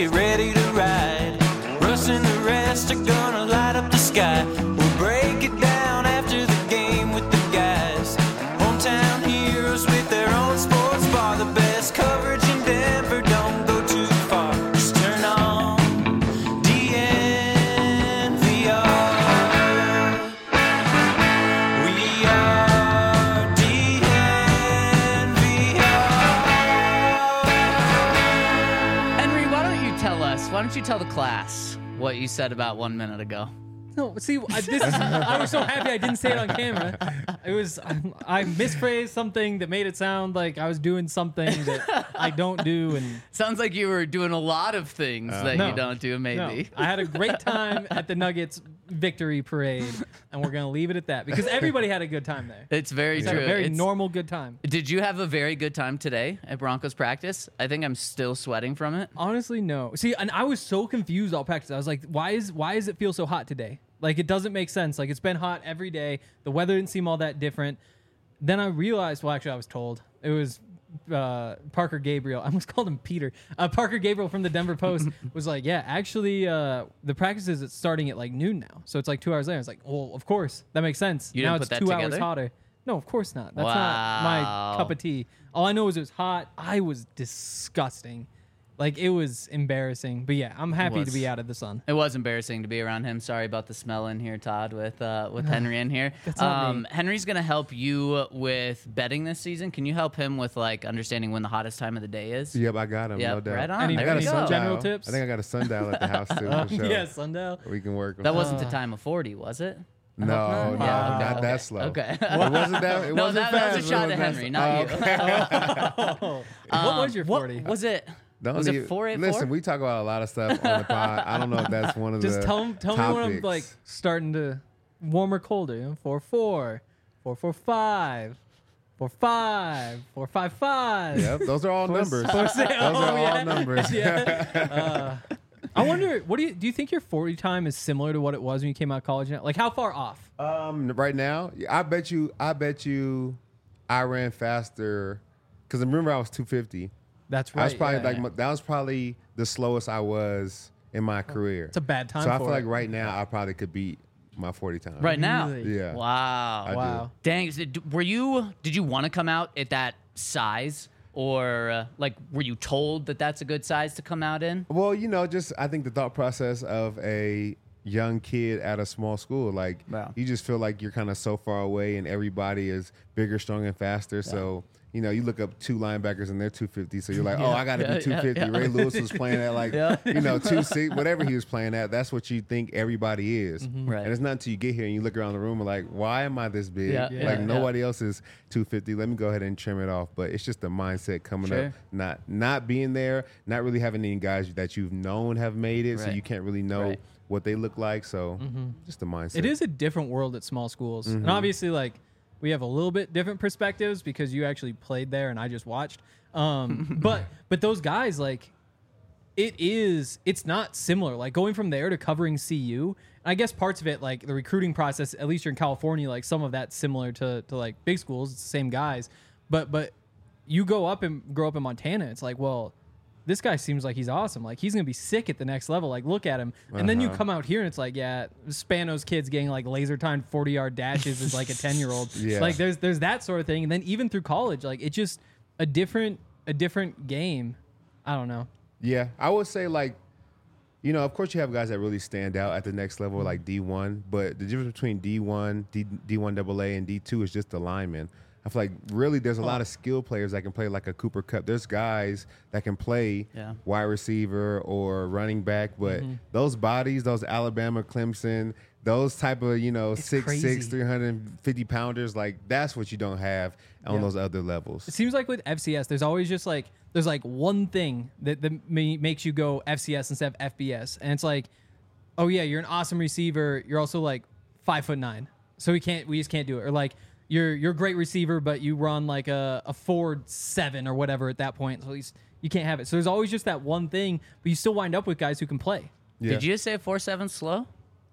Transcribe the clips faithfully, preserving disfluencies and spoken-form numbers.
get ready to ride. Russ and the rest are gonna light up the sky. We'll break it down after the game with the guys. Hometown heroes with their own sports bar. The best coverage in Denver, don't go too far. Just turn on D N V R. We are D N V R. Henry, why don't you tell us, why don't you tell the class what you said about one minute ago? No, see, I, this, I was so happy I didn't say it on camera. It was um, I misphrased something that made it sound like I was doing something that I don't do, and Sounds like you were doing a lot of things that no. you don't do, maybe. no, I had a great time at the Nuggets victory parade, and we're gonna leave it at that because everybody had a good time there. It's very It's true. a very It's- normal good time. Did you have a very good time today at Broncos practice? I think I'm still sweating from it. Honestly, no. See, and I was so confused all practice. I was like, why is why does it feel so hot today? Like, it doesn't make sense. Like, it's been hot every day. The weather didn't seem all that different. Then I realized, well, actually, I was told. It was uh, Parker Gabriel. I almost called him Peter. Uh, Parker Gabriel from the Denver Post was like, yeah, actually, uh, the practice is starting at, like, noon now. So it's, like, two hours later. I was like, well, of course. That makes sense. You now didn't it's put that two hours together? hotter. No, of course not. That's not Wow. my cup of tea. All I know is it was hot. I was disgusting. Like, it was embarrassing. But, yeah, I'm happy to was. be out of the sun. It was embarrassing to be around him. Sorry about the smell in here, Todd, with uh, with Henry in here. That's not Um, me. Henry's gonna help you with betting this season. Can you help him with like understanding when the hottest time of the day is? Yep, I got him. Yep, No doubt. right on. Any- There I got we a go. any general sundial. tips? I think I got a sundial at the house too. For sure. Yeah, sundial. We can work. That wasn't Uh, the time of forty, was it? No, no, Yeah, okay, not okay, that slow. Okay. It wasn't that. It No, wasn't that, that fast. was a shot It at wasn't Henry, that- not Oh, you. okay. What was Um, your what- forty? Was it? Don't Was it even- four eight four? Listen, we talk about a lot of stuff on the pod. I don't know if that's one of Just the tell, 'em- tell me when I'm topics. like starting to warm or colder. You know, four four, four four five, four five, four five five. Yep, those are all numbers. Four, six, Those oh, are all yeah. numbers. Yeah. Uh, I wonder, what do you do? You think your forty time is similar to what it was when you came out of college? Now? Like, how far off? Um, right now, I bet you, I bet you, I ran faster because remember I was two fifty. That's right. I was probably yeah. like my- that was probably the slowest I was in my career. It's a bad time. So I for feel like it. right now I probably could beat my forty time. Right now. Really? Yeah. Wow. I do. Wow. Dang. is it- Were you? Did you want to come out at that size, or uh, like were you told that that's a good size to come out in? Well, you know, just I think the thought process of a young kid at a small school, like Wow. you just feel like you're kind of so far away and everybody is bigger, stronger, and faster. So, you know, you look up two linebackers and they're two fifty. So you're like, oh, I got to Yeah, be two fifty. yeah, yeah. Ray Lewis was playing at like, Yeah. you know, two six, whatever he was playing at. That's what you think everybody is. Right. And it's not until you get here and you look around the room and like, why am I this big? Yeah, yeah, like yeah. nobody else is two fifty. Let me go ahead and trim it off. But it's just the mindset coming Sure. up, not not being there, not really having any guys that you've known have made it, so Right. you can't really know Right. what they look like. So just the mindset. It is a different world at small schools. Mm-hmm. And obviously, like, we have a little bit different perspectives because you actually played there and I just watched. Um, but but those guys, like, it is, it's not similar. Like, going from there to covering C U, I guess parts of it, like the recruiting process, at least you're in California, like some of that's similar to, to like big schools. It's the same guys. But but you go up and grow up in Montana, it's like, well, this guy seems like he's awesome. Like, he's going to be sick at the next level. Like, look at him. And then you Uh-huh. come out here and it's like, yeah, Spano's kids getting like laser timed forty yard dashes is like a ten year old. Yeah. Like, there's there's that sort of thing. And then even through college, like, it's just a different a different game. I don't know. Yeah, I would say like, you know, of course you have guys that really stand out at the next level, like D one. But the difference between D one, D, D1 double A, and D two is just the linemen. I feel like really there's a lot of skill players that can play like a Cooper Kupp. There's guys that can play Yeah. wide receiver or running back, but those bodies, those Alabama, Clemson, those type of, you know, It's six six, crazy. three hundred fifty pounders, like that's what you don't have on Yeah. those other levels. It seems like with F C S, there's always just like there's like one thing that, that ma- makes you go F C S instead of F B S, and it's like, oh yeah, you're an awesome receiver. You're also like five foot nine, so we can't we just can't do it. Or like you're you're a great receiver, but you run like a a four seven or whatever at that point, so at least you can't have it. So there's always just that one thing, but you still wind up with guys who can play Yeah. Did you just say four seven slow?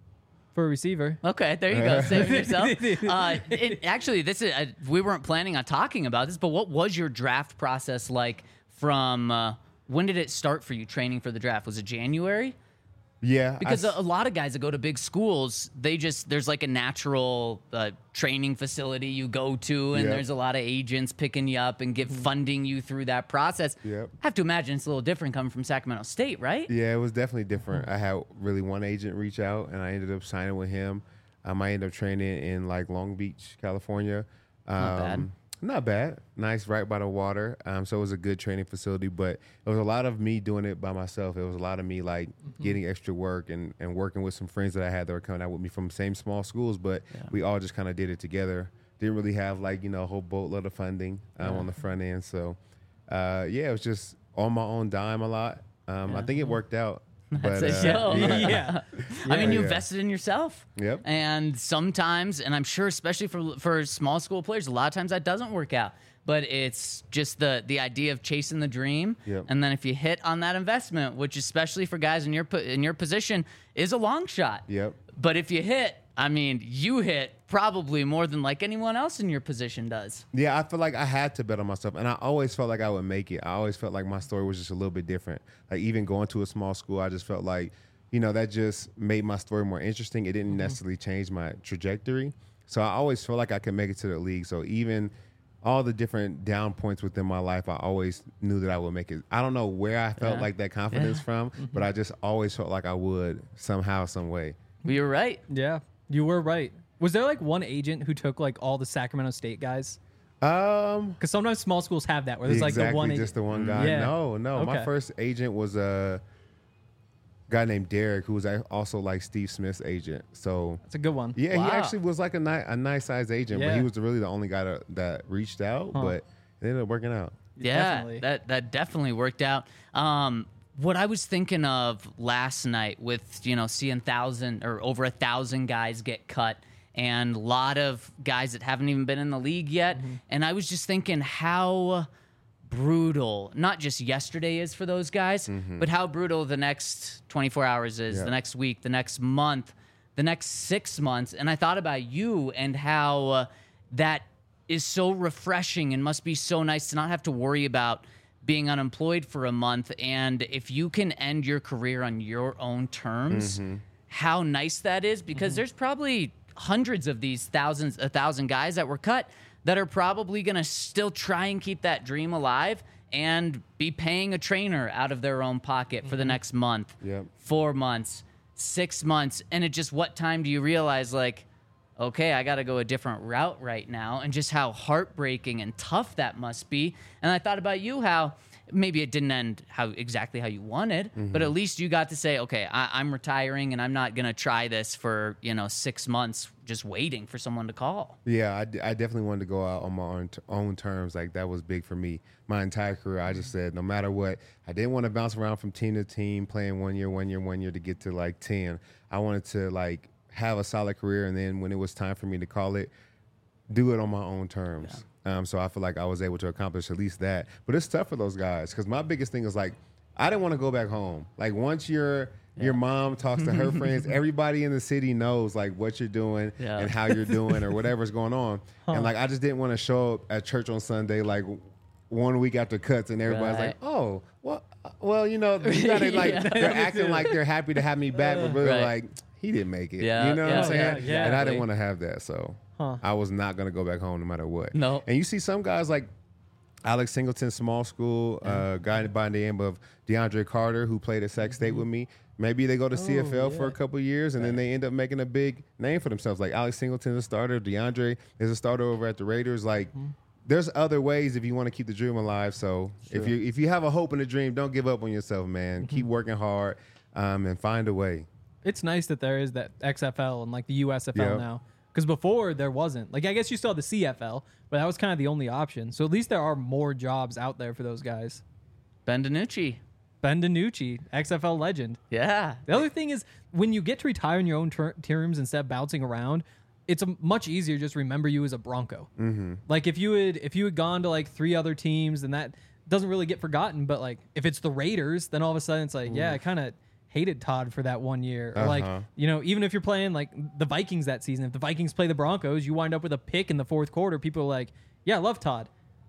for a receiver. Okay, there you go. Saving yourself. Uh, it, actually, this is uh, we weren't planning on talking about this, but what was your draft process like from uh, when did it start for you training for the draft? Was it January? Yeah, I Because s- a a lot of guys that go to big schools, they just there's like a natural uh, training facility you go to, and Yep. there's a lot of agents picking you up and give funding you through that process. Yep. I have to imagine it's a little different coming from Sacramento State, right? Yeah, it was definitely different. I had really one agent reach out, and I ended up signing with him. Um, I ended up training in like Long Beach, California. Um, Not bad. Not bad. Nice, right by the water. Um, so it was a good training facility, but it was a lot of me doing it by myself. It was a lot of me like getting extra work and, and working with some friends that I had that were coming out with me from same small schools, but we all just kind of did it together. Didn't really have like, you know, a whole boatload of funding um, on the front end. So, uh, yeah, it was just on my own dime a lot. Um, I think it worked out. That's but, a uh, show. yeah. I mean, you Yeah. invested in yourself. Yep. And sometimes, and I'm sure, especially for for small school players, a lot of times that doesn't work out. But it's just the the idea of chasing the dream, Yep. and then if you hit on that investment, which especially for guys in your po- in your position is a long shot. Yep. But if you hit, I mean, you hit probably more than like anyone else in your position does. Yeah, I feel like I had to bet on myself, and I always felt like I would make it. I always felt like my story was just a little bit different. Like even going to a small school, I just felt like, you know, that just made my story more interesting. It didn't necessarily change my trajectory. So I always felt like I could make it to the league. So even all the different down points within my life, I always knew that I would make it. I don't know where I felt Yeah. like that confidence Yeah. from, but I just always felt like I would somehow, some way. Well, you're right. Yeah, you were right. Was there like one agent who took like all the Sacramento State guys? Um, Because sometimes small schools have that where there's like exactly, the one agent. just the one guy. Yeah. No, no. My Okay. first agent was a guy named Derek, who was a- also like Steve Smith's agent. So That's a good one. yeah, Wow. he actually was like a, ni- a nice size agent, but Yeah. he was really the only guy that, that reached out. Huh. But it ended up working out. Yeah, Definitely. that that definitely worked out. Um, what I was thinking of last night with, you know, seeing thousand or over a thousand guys get cut and a lot of guys that haven't even been in the league yet. Mm-hmm. And I was just thinking how brutal not just yesterday is for those guys, but how brutal the next twenty-four hours is, Yeah. the next week, the next month, the next six months. And I thought about you and how uh, that is so refreshing and must be so nice to not have to worry about being unemployed for a month. And if you can end your career on your own terms, how nice that is, because there's probably hundreds of these thousands, a thousand guys that were cut that are probably going to still try and keep that dream alive and be paying a trainer out of their own pocket for the next month, Yep. four months, six months. And it just, what time do you realize, like, okay, I got to go a different route right now, and just how heartbreaking and tough that must be. And I thought about you, how maybe it didn't end how exactly how you wanted, but at least you got to say, okay, I, I'm retiring and I'm not going to try this for, you know, six months just waiting for someone to call. Yeah, I, d- I definitely wanted to go out on my own, t- own terms. Like that was big for me. My entire career, I just said no matter what, I didn't want to bounce around from team to team, playing one year, one year, one year to get to like ten. I wanted to like have a solid career, and then when it was time for me to call it, do it on my own terms. Um, so I feel like I was able to accomplish at least that. But it's tough for those guys because my biggest thing is like I didn't want to go back home. Like once your your mom talks to her friends, everybody in the city knows like what you're doing Yeah. and how you're doing or whatever's going on. And like I just didn't want to show up at church on Sunday like one week after cuts and everybody's Right. like, oh, well, well, you know, you gotta like Yeah. they're acting like they're happy to have me back, but really Right. like he didn't make it. Yeah, You know what yeah, I'm saying? yeah, And I exactly. didn't want to have that, so Huh. I was not gonna go back home no matter what. No. And you see some guys like Alex Singleton, small school, uh, guy by the name of DeAndre Carter, who played at Sac State with me. Maybe they go to C F L for a couple years and then they end up making a big name for themselves. Like Alex Singleton's a starter, DeAndre is a starter over at the Raiders. Like, there's other ways if you want to keep the dream alive. So if you if you have a hope and a dream, don't give up on yourself, man. Keep working hard um, and find a way. It's nice that there is that X F L and like the U S F L Yep. now. Because before there wasn't. Like I guess you still had the C F L, but that was kind of the only option. So at least there are more jobs out there for those guys. Ben DiNucci. Ben DiNucci, X F L legend. Yeah. The other thing is when you get to retire in your own ter- terms instead of bouncing around, it's a much easier to just remember you as a Bronco. Mm-hmm. Like if you had if you had gone to like three other teams, then that doesn't really get forgotten. But like if it's the Raiders, then all of a sudden it's like, yeah, I kind of hated Todd for that one year. Or like, Uh-huh. you know, even if you're playing like the Vikings that season, if the Vikings play the Broncos, you wind up with a pick in the fourth quarter. People are like, yeah, I love Todd.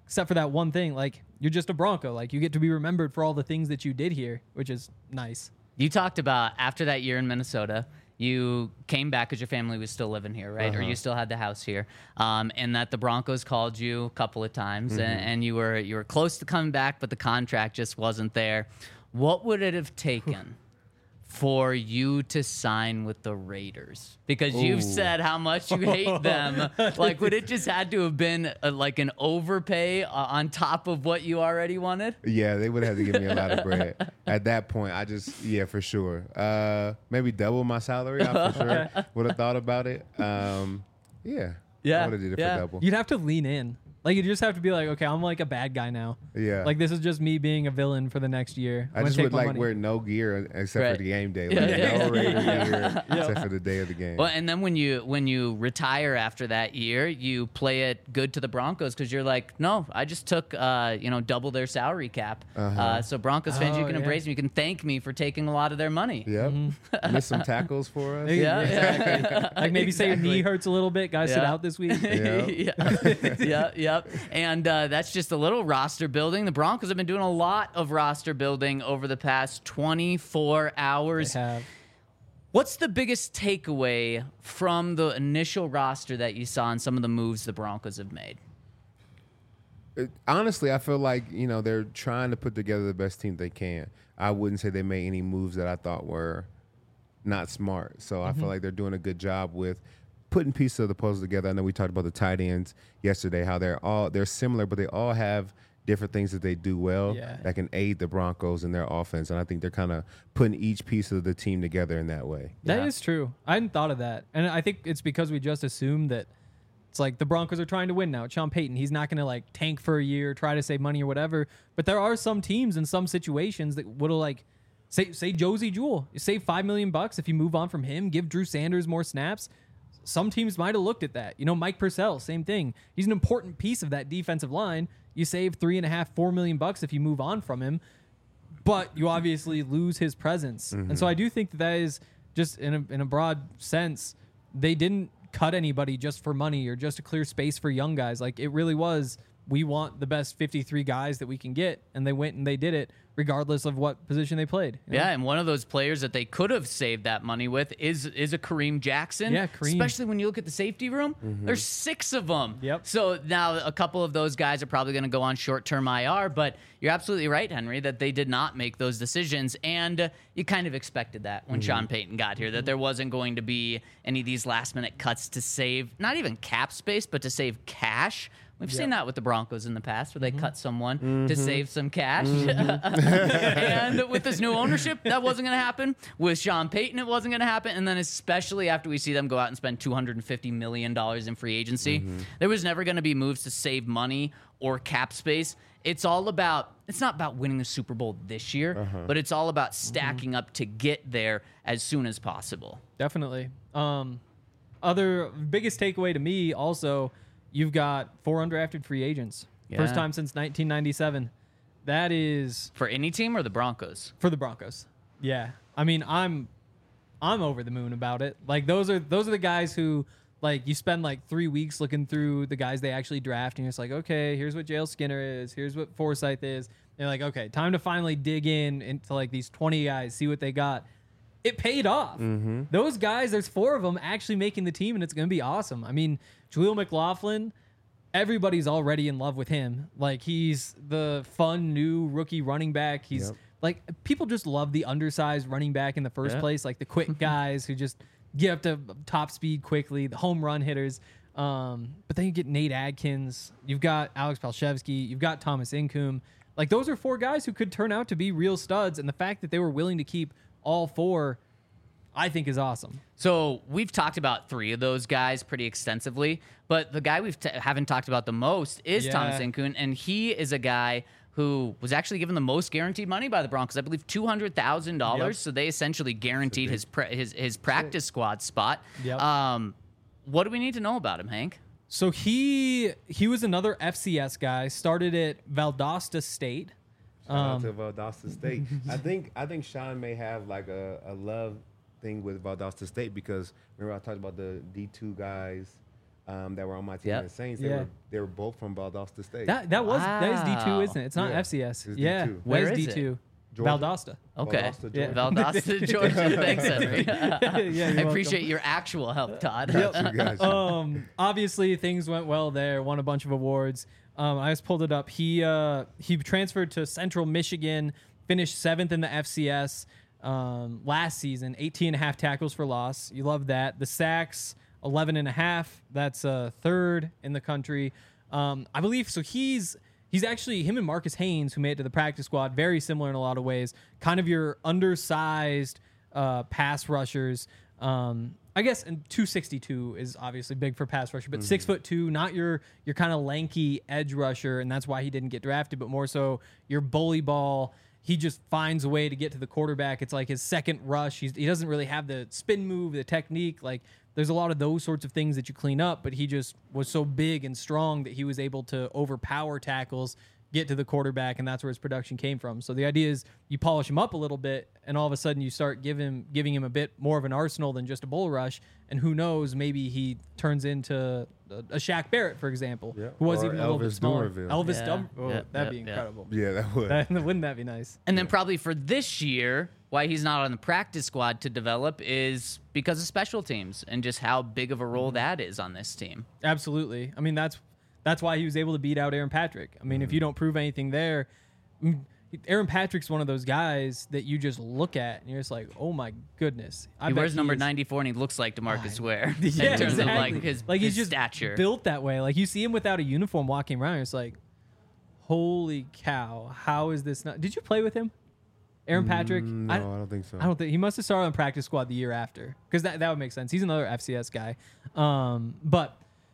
except for that one thing. Like, you're just a Bronco. Like, you get to be remembered for all the things that you did here, which is nice. You talked about after that year in Minnesota, you came back because your family was still living here, right? Uh-huh. Or you still had the house here, um, and that the Broncos called you a couple of times, Mm-hmm. and, and you were you were close to coming back, but the contract just wasn't there. What would it have taken for you to sign with the Raiders? Because you've Ooh. said how much you hate them. Like, would it just had to have been a, like an overpay uh, on top of what you already wanted? Yeah, they would have to give me a lot of bread. At that point, I just, yeah, for sure. Uh, maybe double my salary. I for sure would have thought about it. Um, yeah. Yeah, I would have did it yeah. for double. You'd have to lean in. Like, you just have to be like, okay, I'm like a bad guy now. Yeah. Like, this is just me being a villain for the next year. I I'm gonna just take would my like money. wear no gear except Right. for the game day. Yeah, Like, yeah, no yeah. Raider gear except for the day of the game. Well, and then when you when you retire after that year, you play it good to the Broncos because you're like, no, I just took uh, you know double their salary cap. Uh-huh. Uh, so Broncos fans, you Oh, can yeah. embrace me. You can thank me for taking a lot of their money. Yep. Miss some tackles for us. Yeah, Exactly. Like, maybe say your knee Exactly. hurts a little bit. Guys, sit Yeah. out this week. Yeah. yeah, yeah, yep. And uh, that's just a little roster building. The Broncos have been doing a lot of roster building over the past twenty-four hours. They have. What's the biggest takeaway from the initial roster that you saw and some of the moves the Broncos have made? It- honestly, I feel like, you know, they're trying to put together the best team they can. I wouldn't say they made any moves that I thought were not smart. So I feel like they're doing a good job with putting pieces of the puzzle together. I know we talked about the tight ends yesterday, how they're all they're similar, but they all have different things that they do well Yeah. that can aid the Broncos in their offense. And I think they're kind of putting each piece of the team together in that way. That is Yeah. true. I hadn't thought of that. And I think it's because we just assumed that it's like the Broncos are trying to win now. It's Sean Payton. He's not going to like tank for a year, try to save money or whatever. But there are some teams in some situations that would have like, say, say Josie Jewell. You save five million bucks if you move on from him, give Drew Sanders more snaps. Some teams might have looked at that. You know, Mike Purcell, same thing. He's an important piece of that defensive line. You save three and a half, four million bucks if you move on from him, but you obviously lose his presence. And so I do think that that is just in a, in a broad sense, they didn't cut anybody just for money or just to clear space for young guys. Like, it really was, we want the best fifty-three guys that we can get, and they went and they did it regardless of what position they played. you know? Yeah, and one of those players that they could have saved that money with is is a Kareem Jackson. Yeah, Kareem. Especially when you look at the safety room, there's six of them. Yep. So now a couple of those guys are probably going to go on short-term I R, but you're absolutely right, Henry, that they did not make those decisions, and uh, you kind of expected that when Sean Payton got here, that there wasn't going to be any of these last-minute cuts to save, not even cap space, but to save cash. We've seen that with the Broncos in the past, where they cut someone to save some cash. And with this new ownership, that wasn't going to happen. With Sean Payton, it wasn't going to happen. And then especially after we see them go out and spend two hundred fifty million dollars in free agency, there was never going to be moves to save money or cap space. It's all about, it's not about winning the Super Bowl this year, but it's all about stacking up to get there as soon as possible. Definitely. Um, other biggest takeaway to me also, you've got four undrafted free agents. First Yeah. time since nineteen ninety-seven. That is For any team or the Broncos? for the Broncos. Yeah. I mean, I'm I'm over the moon about it. Like, those are those are the guys who, like, you spend like three weeks looking through the guys they actually draft, and you're just like, okay, here's what Jael Skinner is, here's what Forsyth is. And you're like, okay, time to finally dig in into like these twenty guys, see what they got. It paid off. Those guys, there's four of them actually making the team, and it's going to be awesome. I mean, Jaleel McLaughlin, everybody's already in love with him. Like, he's the fun new rookie running back. He's Yep. like, people just love the undersized running back in the first Yeah. place, like the quick guys who just get up to top speed quickly, the home run hitters. Um, but then you get Nate Adkins, you've got Alex Palshevsky, you've got Thomas Incoom. Like, those are four guys who could turn out to be real studs, and the fact that they were willing to keep all four, I think, is awesome. So we've talked about three of those guys pretty extensively, but the guy we t- haven't talked about the most is Yeah. Thomas Incoon, and he is a guy who was actually given the most guaranteed money by the Broncos. I believe two hundred thousand dollars. Yep. So they essentially guaranteed his pra- his his practice squad spot. Yep. Um, what do we need to know about him, Hank? So he he was another F C S guy, started at Valdosta State. Shout out Um, to Valdosta State. I think I think Sean may have like a, a love thing with Valdosta State because remember I talked about the D two guys um, that were on my team Yep. in the Saints. They Yeah. were they were both from Valdosta State. That that was that is D two, Wow. isn't it? It's not Yeah. F C S. It's Yeah, D two. Where that is is it? D two. Georgia. Valdosta. Okay. Valdosta, Yeah. Georgia. Valdosta, Georgia. Thanks, Henry. Yeah, you're I welcome. appreciate your actual help, Todd. Gotcha, gotcha. um, obviously things went well there. Won a bunch of awards. Um, I just pulled it up. He uh, he transferred to Central Michigan, finished seventh in the F C S um, last season. eighteen and a half tackles for loss. You love that. The sacks, eleven and a half. That's uh, third in the country. Um, I believe so. He's he's actually him and Marcus Haynes, who made it to the practice squad, very similar in a lot of ways. Kind of your undersized uh, pass rushers. Um, I guess and two sixty-two is obviously big for pass rusher, but six foot two, not your your kind of lanky edge rusher, and that's why he didn't get drafted, but more so your bully ball. He just finds a way to get to the quarterback. It's like his second rush. He's, he doesn't really have the spin move, the technique. Like there's a lot of those sorts of things that you clean up, but he just was so big and strong that he was able to overpower tackles, get to the quarterback, and that's where his production came from. So the idea is you polish him up a little bit, and all of a sudden you start give him, giving him a bit more of an arsenal than just a bull rush, and who knows, maybe he turns into a, a Shaq Barrett, for example, Yeah. who was Or even a little bit Elvis smaller. Dumervil. Elvis Yeah. Dum- oh, Yep, that'd yep, be yep. incredible. Yeah, that would. That, wouldn't that be nice? And then probably for this year, why he's not on the practice squad to develop is because of special teams and just how big of a role that is on this team. Absolutely. I mean, that's that's why he was able to beat out Aaron Patrick. I mean, if you don't prove anything there, mm, Aaron Patrick's one of those guys that you just look at and you're just like, oh my goodness. I He bet wears number is- ninety-four and he looks like DeMarcus Ware Yeah, in terms exactly. of like his, like his he's just stature. built that way. Like you see him without a uniform walking around, it's like, holy cow, how is this not? Did you play with him, Aaron Patrick? Mm, No, I, I don't think so. I don't think he must have started on practice squad the year after because that, that would make sense. He's another F C S guy, um, but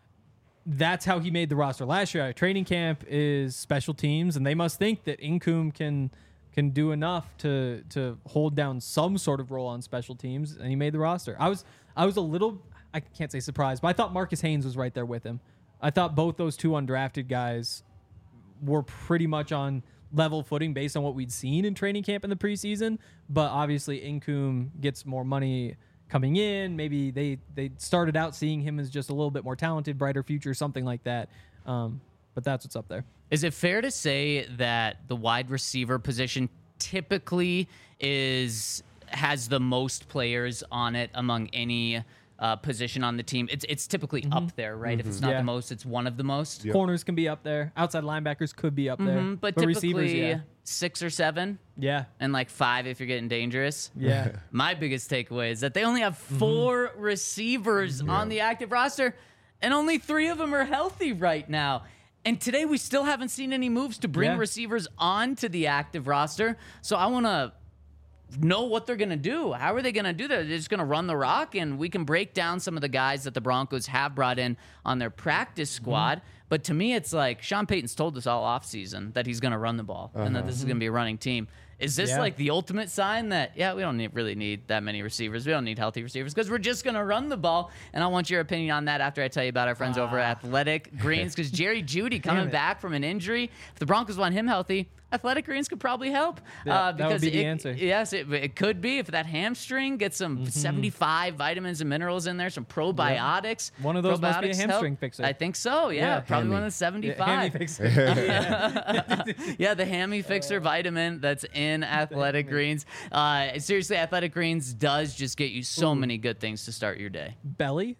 that's how he made the roster last year. At training camp is special teams, and they must think that Incoom can can do enough to to hold down some sort of role on special teams, and he made the roster. I was I was a little I can't say surprised, but I thought Marcus Haynes was right there with him. I thought both those two undrafted guys were pretty much on level footing based on what we'd seen in training camp in the preseason. But obviously, Incoom gets more money coming in. Maybe they they started out seeing him as just a little bit more talented, brighter future, something like that. Um, but that's what's up there. Is it fair to say that the wide receiver position typically is has the most players on it among any uh, position on the team? It's it's typically up there, right? If it's not Yeah. the most, it's one of the most. Corners can be up there. Outside linebackers could be up there. Mhm, but, but typically receivers, yeah. six or seven, Yeah. and like five if you're getting dangerous. Yeah. My biggest takeaway is that they only have four receivers on the active roster, and only three of them are healthy right now. And today we still haven't seen any moves to bring Yeah. receivers onto the active roster. So I want to know what they're going to do. How are they going to do that? They're just going to run the rock, and we can break down some of the guys that the Broncos have brought in on their practice squad. But to me, it's like Sean Payton's told us all offseason that he's going to run the ball and that this is going to be a running team. Is this Yeah. like the ultimate sign that, yeah, we don't need, really need that many receivers. We don't need healthy receivers because we're just going to run the ball. And I want your opinion on that after I tell you about our friends over at Athletic Greens, because Jerry Judy coming it. back from an injury. If the Broncos want him healthy, Athletic Greens could probably help. Yeah, uh, that would because be the it- answer. Yes, it, it could be. If that hamstring gets some seventy-five vitamins and minerals in there, some probiotics. One of those must be a probiotics hamstring help. fixer. I think so, yeah. Yeah. Probably one Hammy. of the seventy-five. Yeah, Hammy fixer. Yeah. Yeah, the Hammy Fixer vitamin that's in Athletic Greens. Uh, seriously, Athletic Greens does just get you so many good things to start your day. Belly.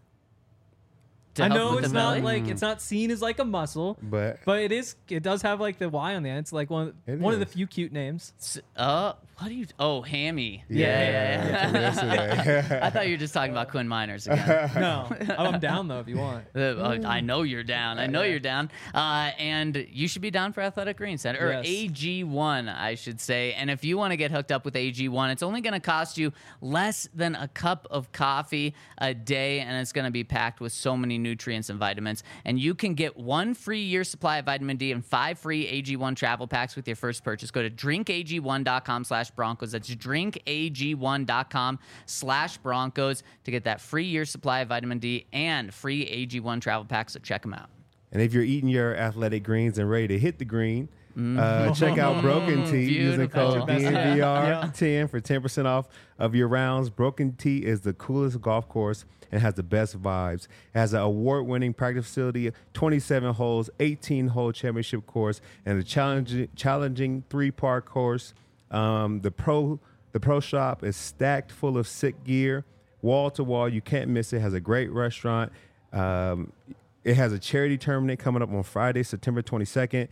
To I help know with it's the not belly. like it's not seen as like a muscle, But but it is. It does have like the Y on the end. It's like one It one of the is. few cute names. S- Uh, what do you? Oh, Hammy. Yeah, Yeah, yeah, yeah. from yesterday. I thought you were just talking about Quinn Miners again. No, I'm down though if you want. Uh, uh, I know you're down. I know yeah. you're down. Uh, and you should be down for Athletic Greens Center, or Yes. A G one, I should say. And if you want to get hooked up with A G one, it's only going to cost you less than a cup of coffee a day, and it's going to be packed with so many nutrients and vitamins. And you can get one free year supply of vitamin D and five free A G one travel packs with your first purchase. Go to drink A G one dot com slash Broncos. That's drink A G one dot com slash Broncos to get that free year supply of vitamin D and free A G one travel packs. So check them out. And if you're eating your athletic greens and ready to hit the green, Uh, check out Broken Tea using code Beautiful. D N V R Yeah. ten for ten percent off of your rounds. Broken Tea is the coolest golf course and has the best vibes. It has an award-winning practice facility, twenty-seven holes, eighteen-hole championship course, and a challenging, challenging three-part course. Um, the pro the pro shop is stacked full of sick gear, wall to wall. You can't miss it. Has a great restaurant. Um, it has a charity tournament coming up on Friday, September twenty-second.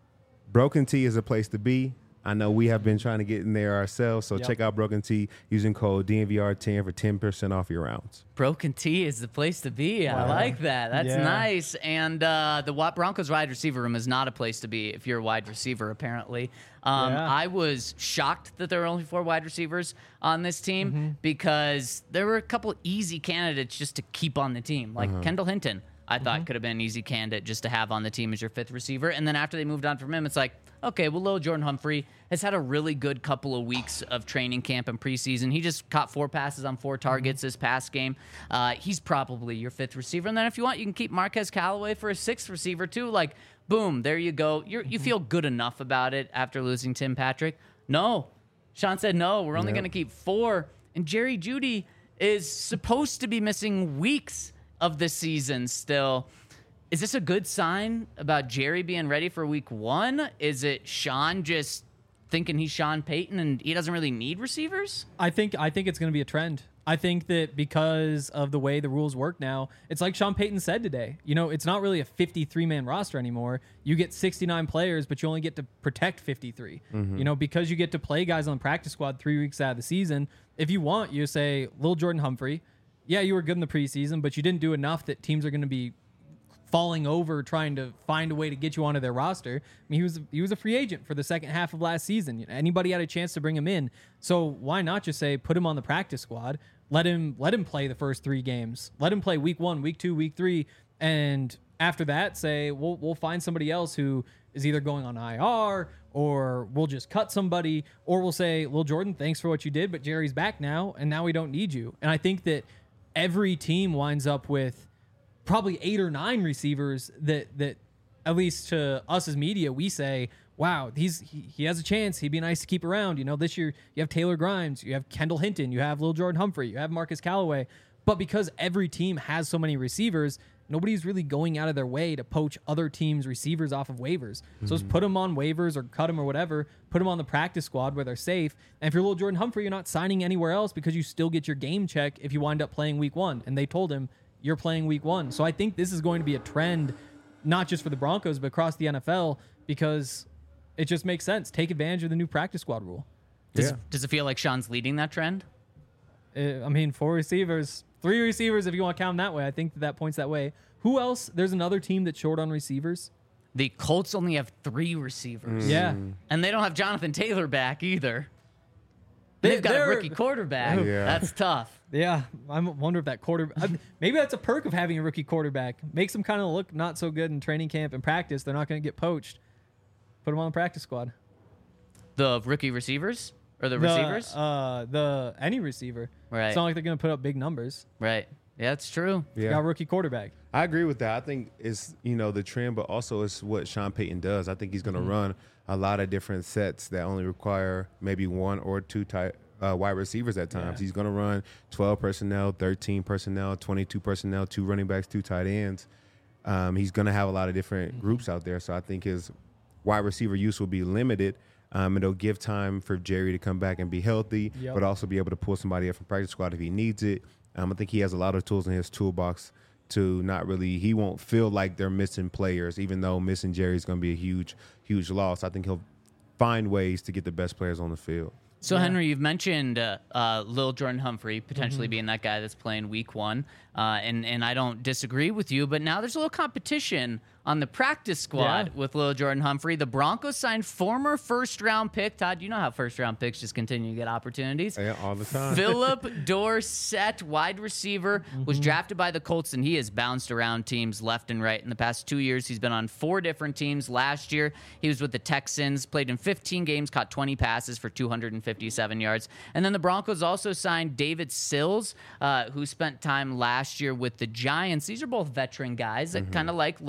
Broken Tea is a place to be. I know we have been trying to get in there ourselves, so Yep. check out Broken Tea using code D N V R ten for ten percent off your rounds. Broken Tea is the place to be. I Wow. like that. That's Yeah. nice. And uh, the Wa- Broncos wide receiver room is not a place to be if you're a wide receiver, apparently. Um, Yeah. I was shocked that there were only four wide receivers on this team Mm-hmm. because there were a couple easy candidates just to keep on the team, like Uh-huh. Kendall Hinton. I thought Mm-hmm. could have been an easy candidate just to have on the team as your fifth receiver. And then after they moved on from him, it's like, okay, well, Lil Jordan Humphrey has had a really good couple of weeks of training camp and preseason. He just caught four passes on four targets this past game. Uh, he's probably your fifth receiver. And then if you want, you can keep Marquez Callaway for a sixth receiver too. Like, boom, there you go. You're, you feel good enough about it after losing Tim Patrick? No. Sean said no. We're only Yep. going to keep four. And Jerry Jeudy is supposed to be missing weeks of the season still. Is this a good sign about Jerry being ready for week one? Is it Sean just thinking he's Sean Payton and he doesn't really need receivers? I think I think it's going to be a trend. I think that because of the way the rules work now, it's like Sean Payton said today. You know, it's not really a fifty-three man roster anymore. You get sixty-nine players, but you only get to protect fifty-three. You know, because you get to play guys on the practice squad three weeks out of the season. If you want, you say, Lil Jordan Humphrey, yeah, you were good in the preseason, but you didn't do enough that teams are going to be falling over trying to find a way to get you onto their roster. I mean, he was he was a free agent for the second half of last season. Anybody had a chance to bring him in. So why not just say put him on the practice squad, let him let him play the first three games, let him play week one, week two, week three, and after that say we'll we'll find somebody else who is either going on I R or we'll just cut somebody, or we'll say, Lil Jordan, thanks for what you did, but Jerry's back now, and now we don't need you. And I think that every team winds up with probably eight or nine receivers that that at least to us as media we say, wow, he's he, he has a chance, he'd be nice to keep around. You know, this year you have Taylor Grimes, you have Kendall Hinton, you have Lil Jordan Humphrey, you have Marcus Callaway. But because every team has so many receivers, nobody's really going out of their way to poach other teams' receivers off of waivers. So just put them on waivers or cut them or whatever, put them on the practice squad where they're safe. And if you're Lil Jordan Humphrey, you're not signing anywhere else because you still get your game check if you wind up playing week one. And they told him, you're playing week one. So I think this is going to be a trend, not just for the Broncos, but across the N F L, because it just makes sense. Take advantage of the new practice squad rule. Does, Yeah. does it feel like Sean's leading that trend? Uh, I mean, four receivers, three receivers, if you want to count them that way. I think that, that points that way. Who else? There's another team that's short on receivers. The Colts only have three receivers. Yeah. And they don't have Jonathan Taylor back either. They- They've got a they're- rookie quarterback. Yeah. That's tough. Yeah, I wonder if that quarter. I- Maybe that's a perk of having a rookie quarterback. Makes them kind of look not so good in training camp and practice. They're not going to get poached. Put them on the practice squad. The rookie receivers? Or the, The, receivers? Uh, the any receiver. Right. It's not like they're going to put up big numbers. Right. Yeah, that's true. Yeah. Got a rookie quarterback. I agree with that. I think it's, you know, the trend, but also it's what Sean Payton does. I think he's going to run a lot of different sets that only require maybe one or two tight uh, wide receivers at times. Yeah. He's going to run twelve personnel, thirteen personnel, twenty-two personnel, two running backs, two tight ends. Um, he's going to have a lot of different groups out there. So I think his wide receiver use will be limited. Um, it'll give time for Jerry to come back and be healthy, Yep. but also be able to pull somebody up from practice squad if he needs it. Um, I think he has a lot of tools in his toolbox to not really, he won't feel like they're missing players, even though missing Jerry is going to be a huge, huge loss. I think he'll find ways to get the best players on the field. So, Henry, you've mentioned uh, uh, Lil Jordan Humphrey potentially Mm-hmm. being that guy that's playing week one, uh, and, and I don't disagree with you, but now there's a little competition on the practice squad Yeah. with Lil Jordan Humphrey. The Broncos signed former first-round pick. Todd, you know how first-round picks just continue to get opportunities. Yeah, all the time. Philip Dorsett, wide receiver, was drafted by the Colts, and he has bounced around teams left and right in the past two years. He's been on four different teams. Last year, he was with the Texans, played in fifteen games, caught twenty passes for two hundred fifty-seven yards. And then the Broncos also signed David Sills, uh, who spent time last year with the Giants. These are both veteran guys that kind of like Lil Jordan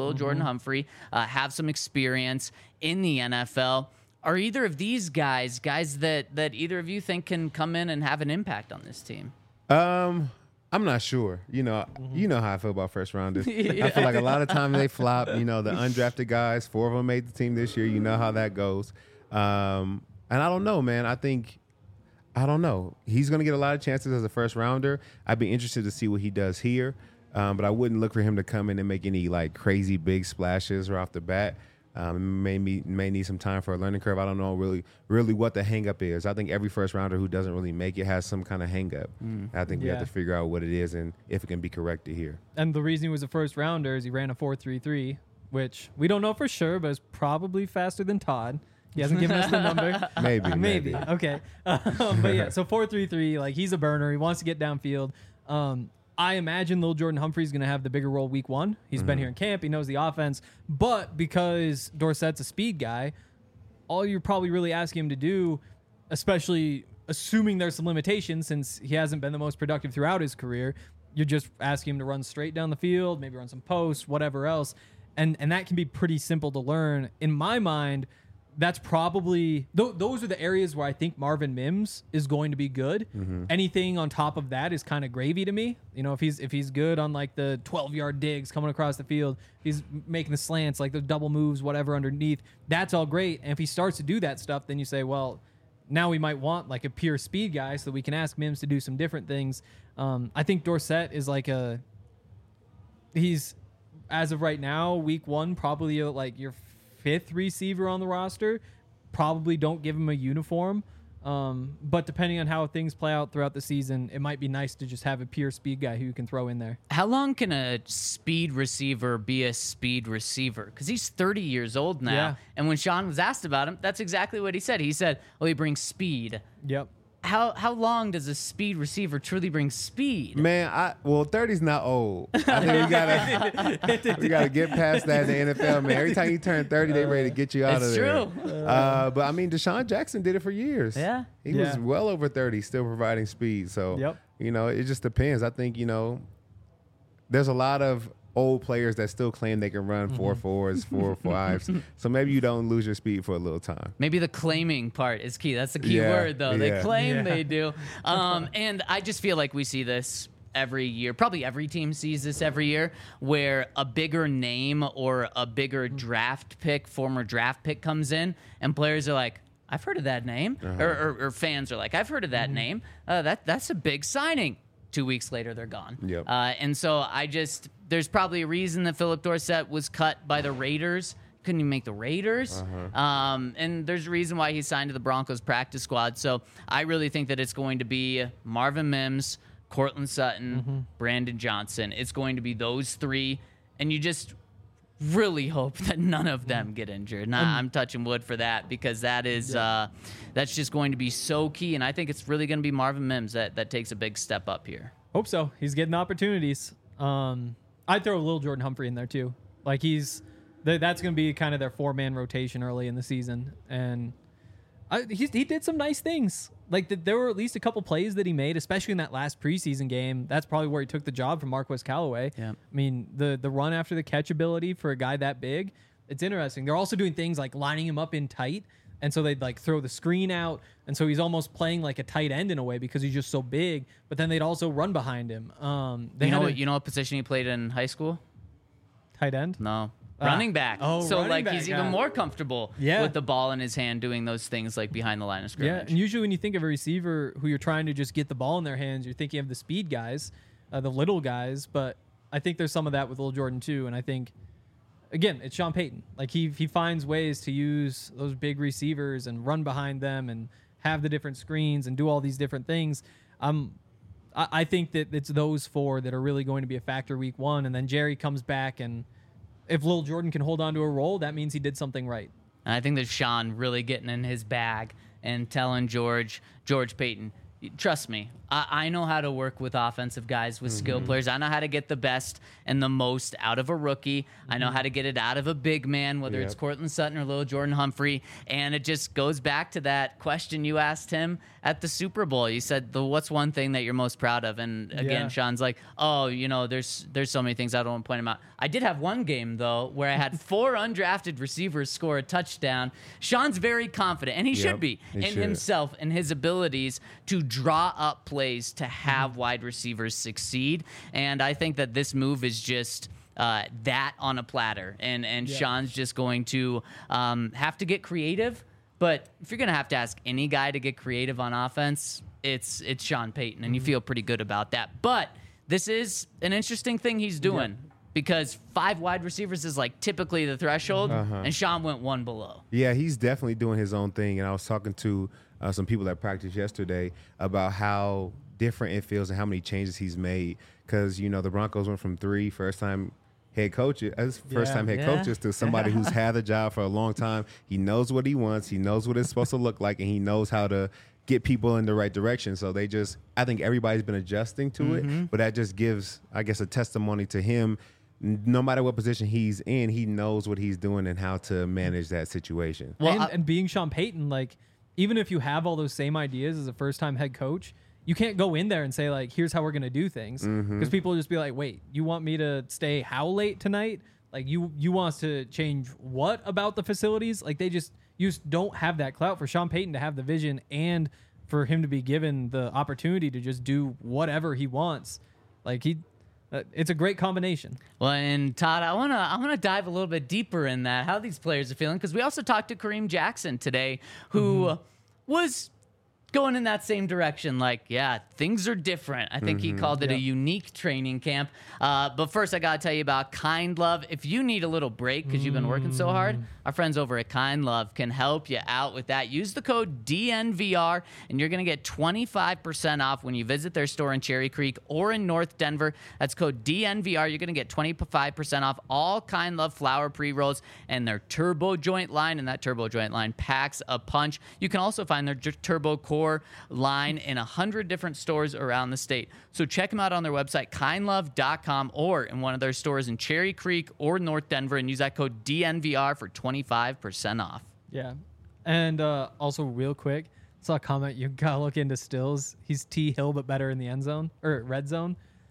Humphrey, uh, have some experience in the N F L. Are either of these guys guys that that either of you think can come in and have an impact on this team? Um, I'm not sure. You know, Mm-hmm. you know how I feel about first rounders. I feel like a lot of times they flop. You know, the undrafted guys, four of them made the team this year. You know how that goes. Um, and I don't know, man. I think, I don't know. He's going to get a lot of chances as a first rounder. I'd be interested to see what he does here. Um, but I wouldn't look for him to come in and make any like crazy big splashes right off the bat. Um, may, me, may need some time for a learning curve. I don't know really really what the hang up is. I think every first rounder who doesn't really make it has some kind of hang up. Mm. I think we Yeah. have to figure out what it is and if it can be corrected here. And the reason he was a first rounder is he ran a four three three, which we don't know for sure, but is probably faster than Todd. He hasn't given us the number. Maybe, Maybe. maybe. Okay. Um, but yeah, so four three three, like he's a burner. He wants to get downfield. Um, I imagine Lil Jordan Humphrey is going to have the bigger role week one. He's Mm-hmm. been here in camp. He knows the offense. But because Dorsett's a speed guy, all you're probably really asking him to do, especially assuming there's some limitations since he hasn't been the most productive throughout his career, you're just asking him to run straight down the field, maybe run some posts, whatever else. And, and that can be pretty simple to learn. In my mind, that's probably th- those are the areas where I think Marvin Mims is going to be good. Mm-hmm. Anything on top of that is kind of gravy to me. You know, if he's if he's good on like the twelve yard digs coming across the field, if he's making the slants, like the double moves, whatever underneath, that's all great. And if he starts to do that stuff, then you say, well, now we might want like a pure speed guy so that we can ask Mims to do some different things. Um, I think Dorsett is like a he's as of right now, week one, probably a, like your fifth receiver on the roster. Probably don't give him a uniform. Um, but depending on how things play out throughout the season, it might be nice to just have a pure speed guy who you can throw in there. How long can a speed receiver be a speed receiver? Because he's thirty years old now. Yeah. And when Sean was asked about him, that's exactly what he said. He said, well, he brings speed. Yep. How how long does a speed receiver truly bring speed? Man, I well, thirty's not old. I think we gotta we gotta get past that in the N F L, man. Every time you turn thirty, they ready to get you out It's of there. true. Uh, but I mean, Deshaun Jackson did it for years. Yeah. he was Yeah. well over thirty, still providing speed. So Yep. you know, it just depends. I think you know, there's a lot of old players that still claim they can run four fours, four fives. So maybe you don't lose your speed for a little time. Maybe the claiming part is key. That's the key Yeah, word, though. They yeah. claim Yeah. they do. Um, and I just feel like we see this every year. Probably every team sees this every year, where a bigger name or a bigger draft pick, former draft pick comes in, and players are like, I've heard of that name. Uh-huh. Or, or, or fans are like, I've heard of that name. Uh, that That's a big signing. Two weeks later, they're gone. Yep. Uh, and so I just, there's probably a reason that Philip Dorsett was cut by the Raiders. Couldn't even make the Raiders. Uh-huh. Um, and there's a reason why he signed to the Broncos practice squad. So I really think that it's going to be Marvin Mims, Cortland Sutton, Mm-hmm. Brandon Johnson. It's going to be those three. And you just really hope that none of them get injured. And I- I'm touching wood for that because that is uh, that's just going to be so key. And I think it's really going to be Marvin Mims that, that takes a big step up here. Hope so. He's getting opportunities. Um, I'd throw a little Jordan Humphrey in there too. Like he's, th- that's going to be kind of their four man rotation early in the season, and I, he's, he did some nice things. Like the, there were at least a couple plays that he made, especially in that last preseason game. That's probably where he took the job from Marquez Callaway. Yeah. I mean the the run after the catch ability for a guy that big, it's interesting. They're also doing things like lining him up in tight. And so they'd like throw the screen out. And so he's almost playing like a tight end in a way because he's just so big. But then they'd also run behind him. Um, they You know had what? a You know what position he played in high school? tight end. No. Ah. Running back. Oh, so running like back, he's even ah. more comfortable Yeah. with the ball in his hand doing those things like behind the line of Yeah, scrimmage. and usually when you think of a receiver who you're trying to just get the ball in their hands, you're thinking of the speed guys, uh, the little guys. But I think there's some of that with Lil Jordan too. And I think, again, it's Sean Payton. Like he he finds ways to use those big receivers and run behind them and have the different screens and do all these different things. Um, I, I think that it's those four that are really going to be a factor week one, and then Jerry comes back, and if Lil Jordan can hold on to a role, that means he did something right. And I think that Sean really getting in his bag and telling George, George Payton, Trust me, I, I know how to work with offensive guys, with mm-hmm. skill players. I know how to get the best and the most out of a rookie. Mm-hmm. I know how to get it out of a big man, whether yep. it's Cortland Sutton or little Jordan Humphrey. And it just goes back to that question you asked him at the Super Bowl. You said, "The what's one thing that you're most proud of?" And again, yeah. Sean's like, "Oh, you know, there's there's so many things I don't want to point them out." I did have one game though where I had four undrafted receivers score a touchdown. Sean's very confident, and he yep, should be he in should. himself and his abilities to draw up plays to have wide receivers succeed. And I think that this move is just uh, that on a platter. And and yeah. Sean's just going to um, have to get creative. But if you're going to have to ask any guy to get creative on offense, it's it's Sean Payton, and you feel pretty good about that. But this is an interesting thing he's doing. Yeah. Because five wide receivers is like typically the threshold, uh-huh. and Sean went one below. Yeah, he's definitely doing his own thing. And I was talking to uh, some people that practiced yesterday about how different it feels and how many changes he's made. Because, you know, the Broncos went from three first-time head coaches, as first-time head yeah. coaches to somebody who's had the job for a long time. He knows what he wants. He knows what it's supposed to look like, and he knows how to get people in the right direction. So they just – I think everybody's been adjusting to mm-hmm. it, but that just gives, I guess, a testimony to him. No matter what position he's in, he knows what he's doing and how to manage that situation. Well, and, I, and being Sean Payton, like, even if you have all those same ideas as a first-time head coach, you can't go in there and say, like, here's how we're going to do things. Because mm-hmm. people will just be like, wait, you want me to stay how late tonight? Like, you you want us to change what about the facilities? Like, they just, you just don't have that clout for Sean Payton to have the vision and for him to be given the opportunity to just do whatever he wants. Like, he... Uh, it's a great combination. Well, and Todd, I wanna I wanna dive a little bit deeper in that, how these players are feeling, because we also talked to Kareem Jackson today, who mm-hmm. was going in that same direction. Like, yeah, things are different. I think mm-hmm. he called it yep. a unique training camp. Uh, but first, I gotta tell you about Kind Love. If you need a little break because you've been working so hard, our friends over at Kind Love can help you out with that. Use the code D N V R, and you're gonna get twenty-five percent off when you visit their store in Cherry Creek or in North Denver. That's code D N V R. You're gonna get twenty-five percent off all Kind Love flower pre-rolls and their Turbo Joint line, and that Turbo Joint line packs a punch. You can also find their J- Turbo Core line in one hundred different stores around the state. So check them out on their website, kind love dot com, or in one of their stores in Cherry Creek or North Denver, and use that code D N V R for twenty-five percent off. Yeah. And uh, also real quick, saw a comment, you gotta look into Stills. He's T Hill, but better in the end zone, or red zone.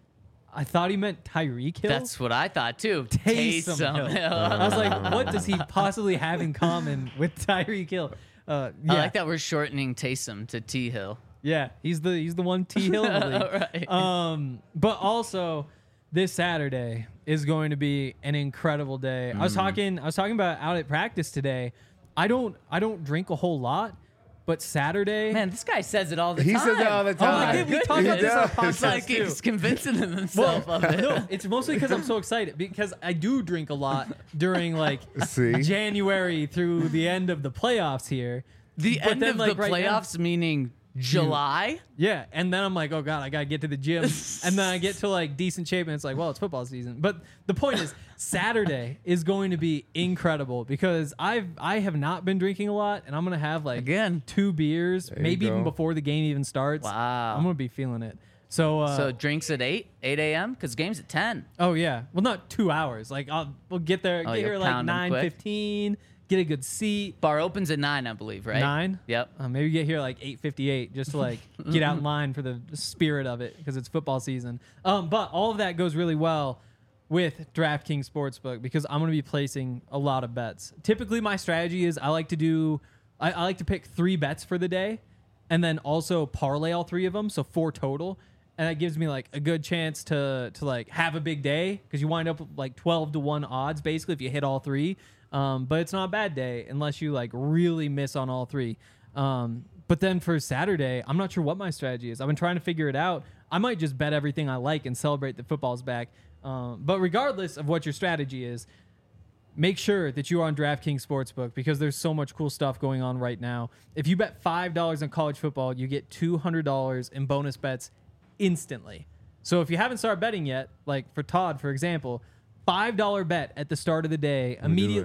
I thought he meant Tyreek Hill. That's what I thought too. Taysom Taysom Hill. I was like, what does he possibly have in common with Tyreek Hill? Uh, yeah. I like that we're shortening Taysom to T Hill. Yeah, he's the he's the one T Hill in the league. Right. Um, but also this Saturday is going to be an incredible day. Mm. I was talking I was talking about out at practice today. I don't I don't drink a whole lot, but Saturday. Man, this guy says it all the he time. He says it all the time. Oh, we talk about this on podcast It's like too. He's convincing himself well, of it. No, it's mostly because I'm so excited because I do drink a lot during like See? January through the end of the playoffs here. The But end then, of like, the right playoffs, now- meaning July? Yeah, and then I'm like, oh god, I gotta get to the gym, and then I get to like decent shape, and it's like, well, it's football season. But the point is, Saturday is going to be incredible because I've I have not been drinking a lot, and I'm gonna have like Again. two beers, There you maybe even go. before the game even starts. Wow. I'm gonna be feeling it. So, uh, So drinks at eight, eight a.m. because game's at ten. oh yeah, well not two hours. Like I'll we'll get there, Oh, get you'll here like pound 'em nine quick. fifteen, get a good seat. Bar opens at nine, I believe, right? Nine? Yep. Uh, maybe get here like eight fifty-eight just to like get out in line for the spirit of it because it's football season. Um, but all of that goes really well with DraftKings Sportsbook because I'm going to be placing a lot of bets. Typically, my strategy is I like to do, I, I like to pick three bets for the day and then also parlay all three of them, so four total. And that gives me like a good chance to to like have a big day because you wind up with like twelve to one odds basically if you hit all three. Um, but it's not a bad day unless you like really miss on all three. Um, but then for Saturday, I'm not sure what my strategy is. I've been trying to figure it out. I might just bet everything I like and celebrate that football's back. Um, but regardless of what your strategy is, make sure that you are on DraftKings Sportsbook because there's so much cool stuff going on right now. If you bet five dollars on college football, you get two hundred dollars in bonus bets instantly. So if you haven't started betting yet, like for Todd, for example, five dollar bet at the start of the day, I'm gonna do immediately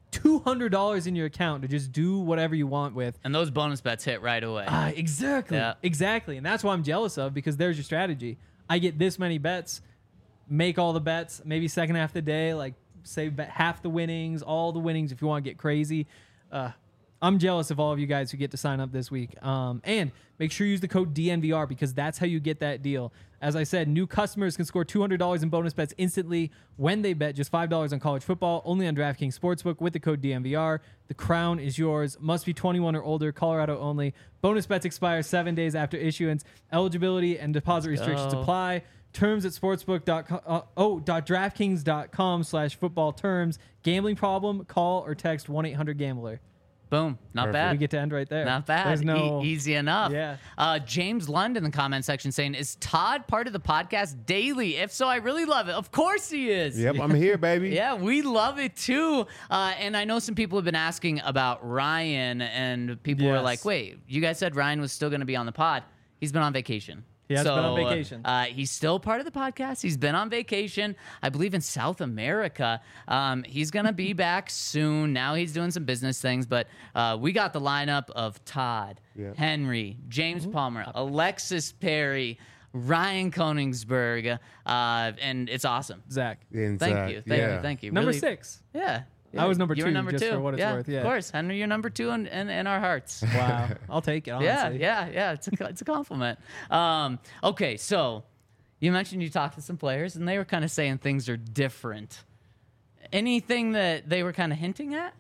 two hundred dollars in your account to just do whatever you want with. And those bonus bets hit right away. Ah, exactly. Yeah. Exactly. And that's what I'm jealous of, because there's your strategy. I get this many bets, make all the bets, maybe second half of the day, like say bet half the winnings, all the winnings if you want to get crazy. Uh, I'm jealous of all of you guys who get to sign up this week. Um, and make sure you use the code D N V R, because that's how you get that deal. As I said, new customers can score two hundred dollars in bonus bets instantly when they bet just five dollars on college football, only on DraftKings Sportsbook with the code D N V R. The crown is yours. Must be twenty-one or older, Colorado only. Bonus bets expire seven days after issuance. Eligibility and deposit restrictions go. apply. Terms at sportsbook dot com, uh, oh, .draftkings dot com slash football terms. Gambling problem? Call or text one eight hundred gambler. Boom. Not Perfect. bad. We get to end right there. Not bad. There's no E- easy enough. Yeah. Uh, James Lund in the comment section saying, is Todd part of the podcast daily? If so, I really love it. Of course he is. Yep, I'm here, baby. Yeah, we love it too. Uh, and I know some people have been asking about Ryan, and people were Yes. like, wait, you guys said Ryan was still going to be on the pod. He's been on vacation. He has so, been on vacation. Uh, he's still part of the podcast. He's been on vacation, I believe, in South America. Um, he's going to be back soon. Now he's doing some business things, but uh, we got the lineup of Todd, Yeah. Henry, James Palmer, Alexis Perry, Ryan Koenigsberg, uh, and it's awesome. Zach. And, Thank uh, you. Thank yeah. you. Thank you. Number Really- six. Yeah. I was number you two, were number just two. for what it's yeah, worth, yeah. Of course, Henry, you're number two in, in, in our hearts. Wow. I'll take it, honestly. Yeah, yeah, yeah. It's a it's a compliment. Um, okay, so you mentioned you talked to some players, and they were kind of saying things are different. Anything that they were kind of hinting at?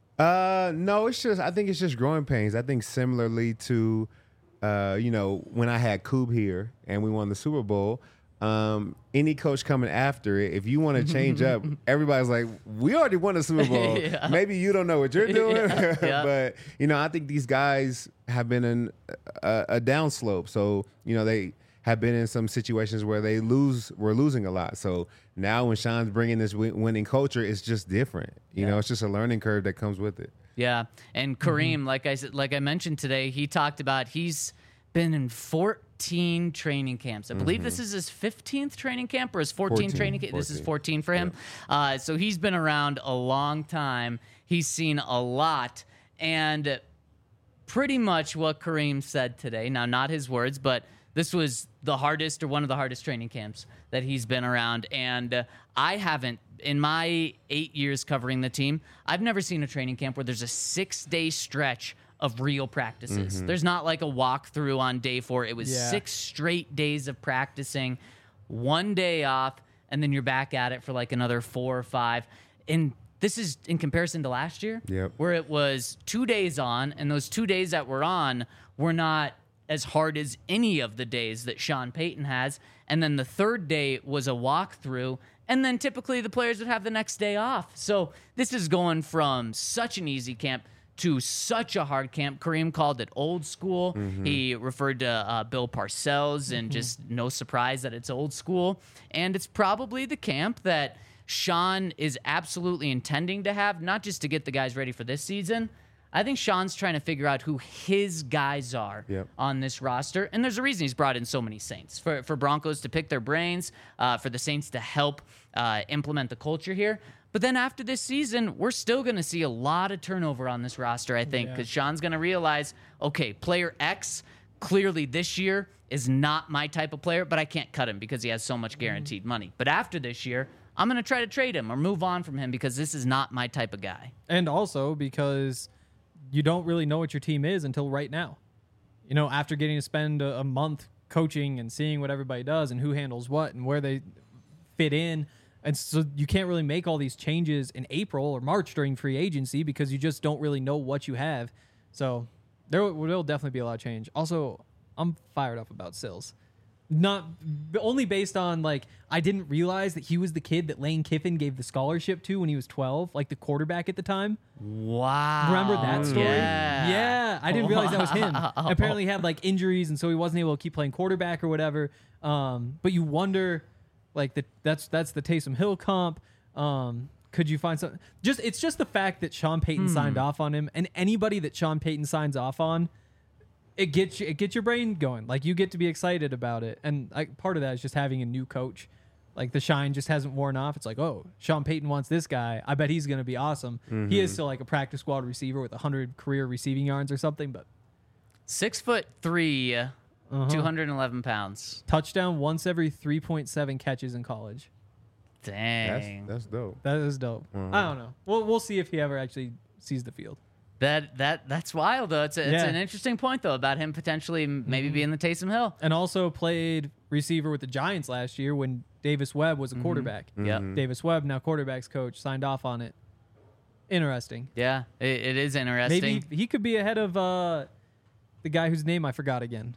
Uh, no, it's just I think it's just growing pains. I think similarly to, uh, you know, when I had Coob here and we won the Super Bowl. Um, any coach coming after it, if you want to change up, everybody's like, we already won the Super Bowl. Yeah. Maybe you don't know what you're doing. Yeah, yeah. But, you know, I think these guys have been in a, a downslope. So, you know, they have been in some situations where they lose, we're losing a lot. So now when Sean's bringing this win- winning culture, it's just different. You know, it's just a learning curve that comes with it. Yeah, and Kareem, like I said, like I mentioned today, he talked about he's been in fourteen training camps. I believe this is his fifteenth training camp or his fourteenth fourteen, training camp. This is fourteen. fourteen for him. Uh, so he's been around a long time. He's seen a lot, and pretty much what Kareem said today. Now, not his words, but this was the hardest or one of the hardest training camps that he's been around. And uh, I haven't, in my eight years covering the team, I've never seen a training camp where there's a six-day stretch of real practices. Mm-hmm. There's not like a walkthrough on day four. It was Yeah. six straight days of practicing, one day off, and then you're back at it for like another four or five. And this is in comparison to last year, Yep. where it was two days on, and those two days that were on were not as hard as any of the days that Sean Payton has. And then the third day was a walkthrough, and then typically the players would have the next day off. So this is going from such an easy camp to such a hard camp. Kareem called it old school. He referred to uh, Bill Parcells, and just no surprise that it's old school. And it's probably the camp that Sean is absolutely intending to have, not just to get the guys ready for this season. I think Sean's trying to figure out who his guys are Yep. on this roster. And there's a reason he's brought in so many Saints. For, for Broncos to pick their brains, uh, for the Saints to help uh, implement the culture here. But then after this season, we're still going to see a lot of turnover on this roster, I think, because Sean's going to realize, okay, player X clearly this year is not my type of player, but I can't cut him because he has so much guaranteed money. But after this year, I'm going to try to trade him or move on from him because this is not my type of guy. And also because you don't really know what your team is until right now. You know, after getting to spend a, a month coaching and seeing what everybody does and who handles what and where they fit in. And so you can't really make all these changes in April or March during free agency because you just don't really know what you have. So there will there'll definitely be a lot of change. Also, I'm fired up about Sills. Not only based on, like, I didn't realize that he was the kid that Lane Kiffin gave the scholarship to when he was twelve, like the quarterback at the time. Wow. Remember that story? Yeah. Yeah, I didn't realize that was him. Wow. Apparently he had like injuries, and so he wasn't able to keep playing quarterback or whatever. Um, but you wonder, like, the, that's that's the Taysom Hill comp. Um, could you find something? Just it's just the fact that Sean Payton Hmm. signed off on him, and anybody that Sean Payton signs off on, it gets you, it gets your brain going. Like, you get to be excited about it, and like part of that is just having a new coach. Like the shine just hasn't worn off. It's like, oh, Sean Payton wants this guy. I bet he's going to be awesome. Mm-hmm. He is still like a practice squad receiver with one hundred career receiving yards or something, but Six foot three, uh-huh. two hundred eleven pounds. touchdown once every three point seven catches in college. That's Dang. that's dope. That is dope. Mhm. I don't know. We'll we'll see if he ever actually sees the field. That that that's wild though. It's a, it's Yeah. an interesting point though about him potentially m- maybe being the Taysom Hill. And also played receiver with the Giants last year when Davis Webb was a quarterback. Yep. Davis Webb, now quarterbacks coach, signed off on it. Interesting. Yeah, it, it is interesting. Maybe he could be ahead of uh, the guy whose name I forgot again.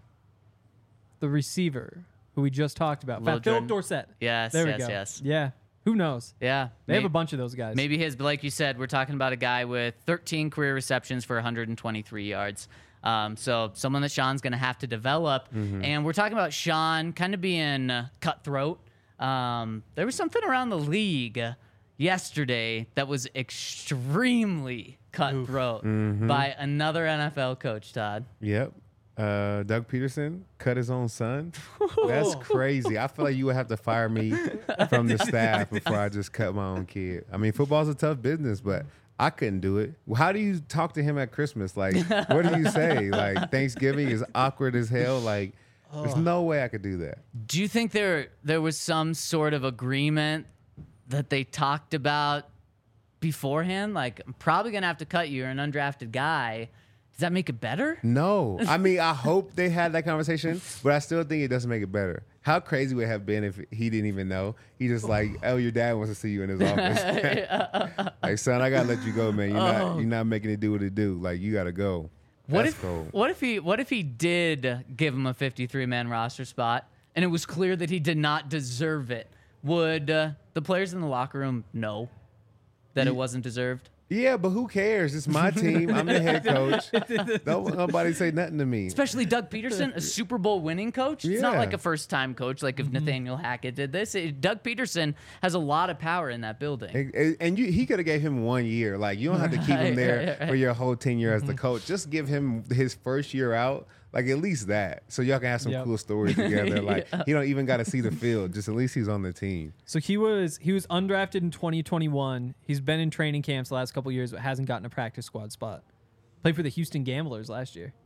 The receiver who we just talked about. Lil Fat Philip Jordan. Dorsett. Yes, There we yes, go. yes. Yeah. Who knows? Yeah, They have may- a bunch of those guys. Maybe his, but like you said, we're talking about a guy with thirteen career receptions for one hundred twenty-three yards. Um, so someone that Sean's going to have to develop. And we're talking about Sean kind of being uh, cutthroat. Um, there was something around the league yesterday that was extremely cutthroat by another N F L coach, Todd. Yep. Uh, Doug Peterson cut his own son. That's crazy. I feel like you would have to fire me from the staff before I just cut my own kid. I mean, football's a tough business, but I couldn't do it. Well, how do you talk to him at Christmas? Like, what do you say? Like, Thanksgiving is awkward as hell. Like, there's no way I could do that. Do you think there there was some sort of agreement that they talked about beforehand? Like, I'm probably gonna have to cut you. You're an undrafted guy. Does that make it better? No. I mean, I hope they had that conversation, but I still think it doesn't make it better. How crazy would it have been if he didn't even know? He just like, oh, your dad wants to see you in his office. Like, son, I gotta let you go, man. You're not you're not making it do what it do. Like, you gotta go. What That's if cold. what if he what if he did give him a fifty-three man roster spot and it was clear that he did not deserve it? Would uh, the players in the locker room know that it wasn't deserved? Yeah, but who cares? It's my team. I'm the head coach. Don't nobody say nothing to me. Especially Doug Peterson, a Super Bowl winning coach. It's not Yeah. like a first time coach, like if Nathaniel Hackett did this. It- Doug Peterson has a lot of power in that building. And- and- And you, he could have gave him one year. Like, you don't have to keep him Right, there right, right. for your whole tenure as the coach. Just give him his first year out. Like, at least that. So y'all can have some Yep. cool stories together. Like, he don't even got to see the field. Just at least he's on the team. So he was he was undrafted in twenty twenty-one. He's been in training camps the last couple of years, but hasn't gotten a practice squad spot. Played for the Houston Gamblers last year.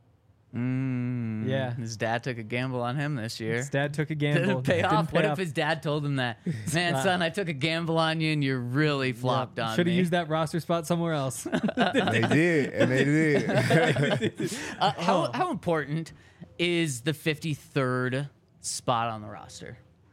Mm, Yeah. His dad took a gamble on him this year. His dad took a Did gamble. it pay Didn't off? pay What off. if his dad told him that? Man, Wow. son, I took a gamble on you and you really flopped on Should me. have used that roster spot somewhere else. They did, and they did. Uh, how, how important is the fifty-third spot on the roster?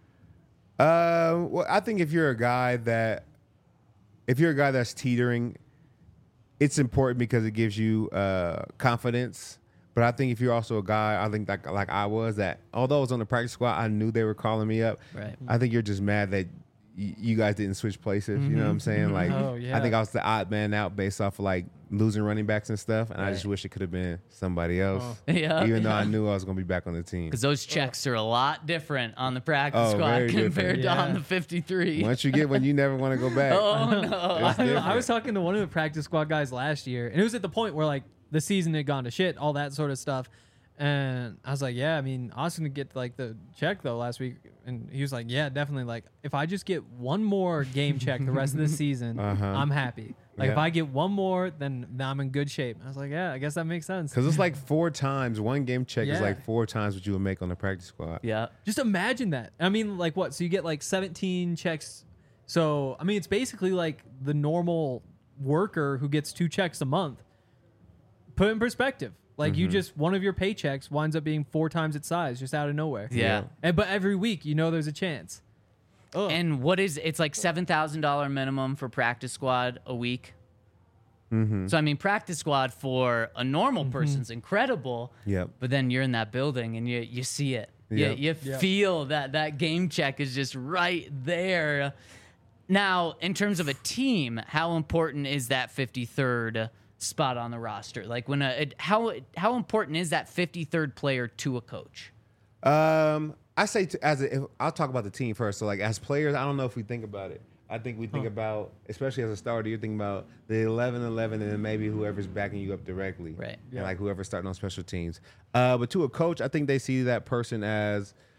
Uh, well, I think if you're a guy that, if you're a guy that's teetering, it's important because it gives you uh, confidence. But I think if you're also a guy, I think like like I was, that although I was on the practice squad, I knew they were calling me up. Right. I think you're just mad that y- you guys didn't switch places. You know what I'm saying? Like, Oh, yeah. I think I was the odd man out based off of like losing running backs and stuff. And I just Right. wish it could have been somebody else. Yeah, Even though yeah. I knew I was going to be back on the team. Because those checks are a lot different on the practice Oh, squad very compared different. to on Yeah. the fifty-three. Once you get one, you never want to go back. Oh, no. It's I, different. I was talking to one of the practice squad guys last year, and it was at the point where like the season had gone to shit, all that sort of stuff. And I was like, yeah, I mean, Austin would get like the check though last week, and he was like, yeah, definitely. Like, if I just get one more game check the rest of the season, Uh-huh. I'm happy. Like, if Yeah. I get one more, then then I'm in good shape. I was like, yeah, I guess that makes sense. Because it's like four times, one game check is Yeah. like four times what you would make on the practice squad. Yeah. Just imagine that. I mean, like what? So you get like seventeen checks. So I mean, it's basically like the normal worker who gets two checks a month. Put it in perspective. Like you just one of your paychecks winds up being four times its size, just out of nowhere. Yeah. And but every week, you know, there's a chance. Ugh. And what is it's like seven thousand dollar minimum for practice squad a week. Mm-hmm. So I mean, practice squad for a normal person's incredible. Yep. But then you're in that building and you you see it. Yep. You, you Yep. feel that that game check is just right there. Now, in terms of a team, how important is that fifty-third spot on the roster? Like when a it, how how important is that fifty-third player to a coach? Um, I say to, as a, if, I'll talk about the team first. So like as players, I don't know if we think about it. I think we think about, especially as a starter, you're thinking about the eleven eleven and then maybe whoever's backing you up directly. Right. And like whoever's starting on special teams. Uh, but to a coach, I think they see that person as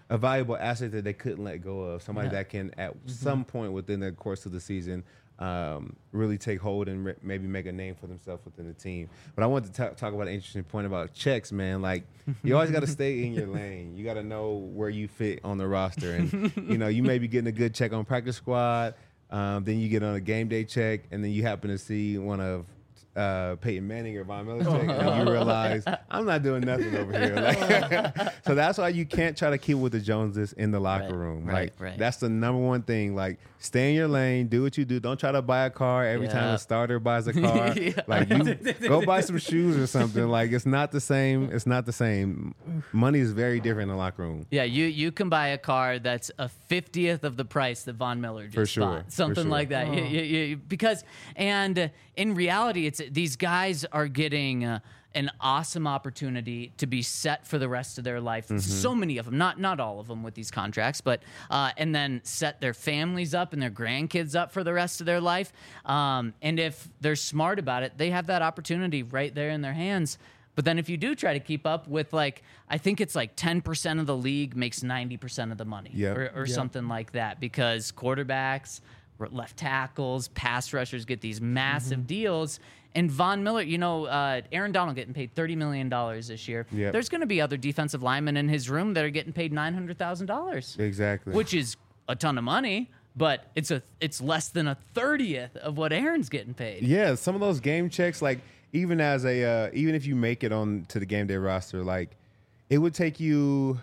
a valuable asset that they couldn't let go of. Somebody Yeah. that can, at Mm-hmm. some point within the course of the season, um, really take hold and re- maybe make a name for themselves within the team. But I want to ta- talk about an interesting point about checks, man. Like, you always got to stay in your lane. You got to know where you fit on the roster. And, you know, you may be getting a good check on practice squad. Um, then you get on a game day check, and then you happen to see one of uh, Peyton Manning or Von Miller check, and you realize I'm not doing nothing over here. Like, so that's why you can't try to keep with the Joneses in the locker Right, room. right, Like right. that's the number one thing. Like, stay in your lane, do what you do. Don't try to buy a car every time Yeah. a starter buys a car. Yeah. Like, you go buy some shoes or something. Like, it's not the same. It's not the same. Money is very different in the locker room. Yeah, you you can buy a car that's a fiftieth of the price that Von Miller just For sure, bought, for something sure. like that. You- you- you- because and uh, in reality, it's these guys are getting uh, an awesome opportunity to be set for the rest of their life. Mm-hmm. So many of them, not not all of them with these contracts, but uh, and then set their families up and their grandkids up for the rest of their life. Um, and if they're smart about it, they have that opportunity right there in their hands. But then if you do try to keep up with, like, I think it's like ten percent of the league makes ninety percent of the money Yep. or, or Yep. something like that, because quarterbacks, r- left tackles, pass rushers get these massive Mm-hmm. deals. And Von Miller, you know, uh, Aaron Donald getting paid thirty million dollars this year. Yep. There's going to be other defensive linemen in his room that are getting paid nine hundred thousand dollars, Exactly. which is a ton of money, but it's a it's less than a thirtieth of what Aaron's getting paid. Yeah, some of those game checks, like even as a uh, even if you make it on to the game day roster, like it would take you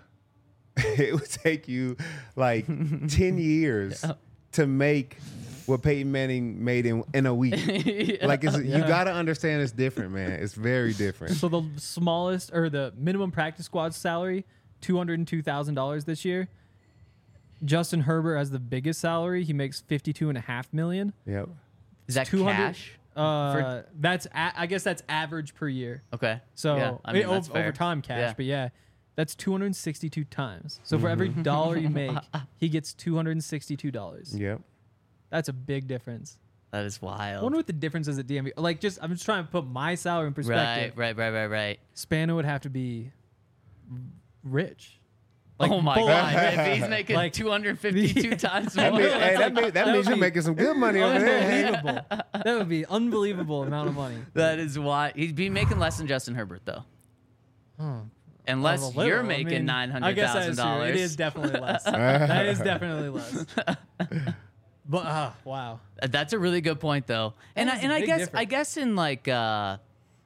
it would take you like ten years to make what Peyton Manning made in in a week. Like it's, you got to understand it's different, man. It's very different. So the smallest or the minimum practice squad salary, two hundred and two thousand dollars this year. Justin Herbert has the biggest salary. He makes fifty-two and a half million. Yep. Is that two hundred cash? Uh, For- that's a, I guess that's average per year. Okay. So yeah, I mean, it- that's over, over fair. time cash, Yeah. but yeah, that's two hundred sixty-two times. So for every dollar you make, he gets two hundred sixty-two dollars. Yep. That's a big difference. That is I wild. wonder what the difference is at D M V. Like, just I'm just trying to put my salary in Right, perspective. right, right, right, right. Spano would have to be rich. oh my full God! on. If he's making Like- two hundred fifty-two times That, more, mean, hey, that, mean, that, that means would you're be making some good money over there. Unbelievable. That would be unbelievable amount of money. that is why he'd be making less than Justin Herbert, though. Unless Well, a little. you're I making mean, nine I hundred guess that thousand is true. It dollars. is definitely less. That is definitely less. But uh, wow. That's a really good point, though. And I, is a and I big guess difference. I guess in like uh,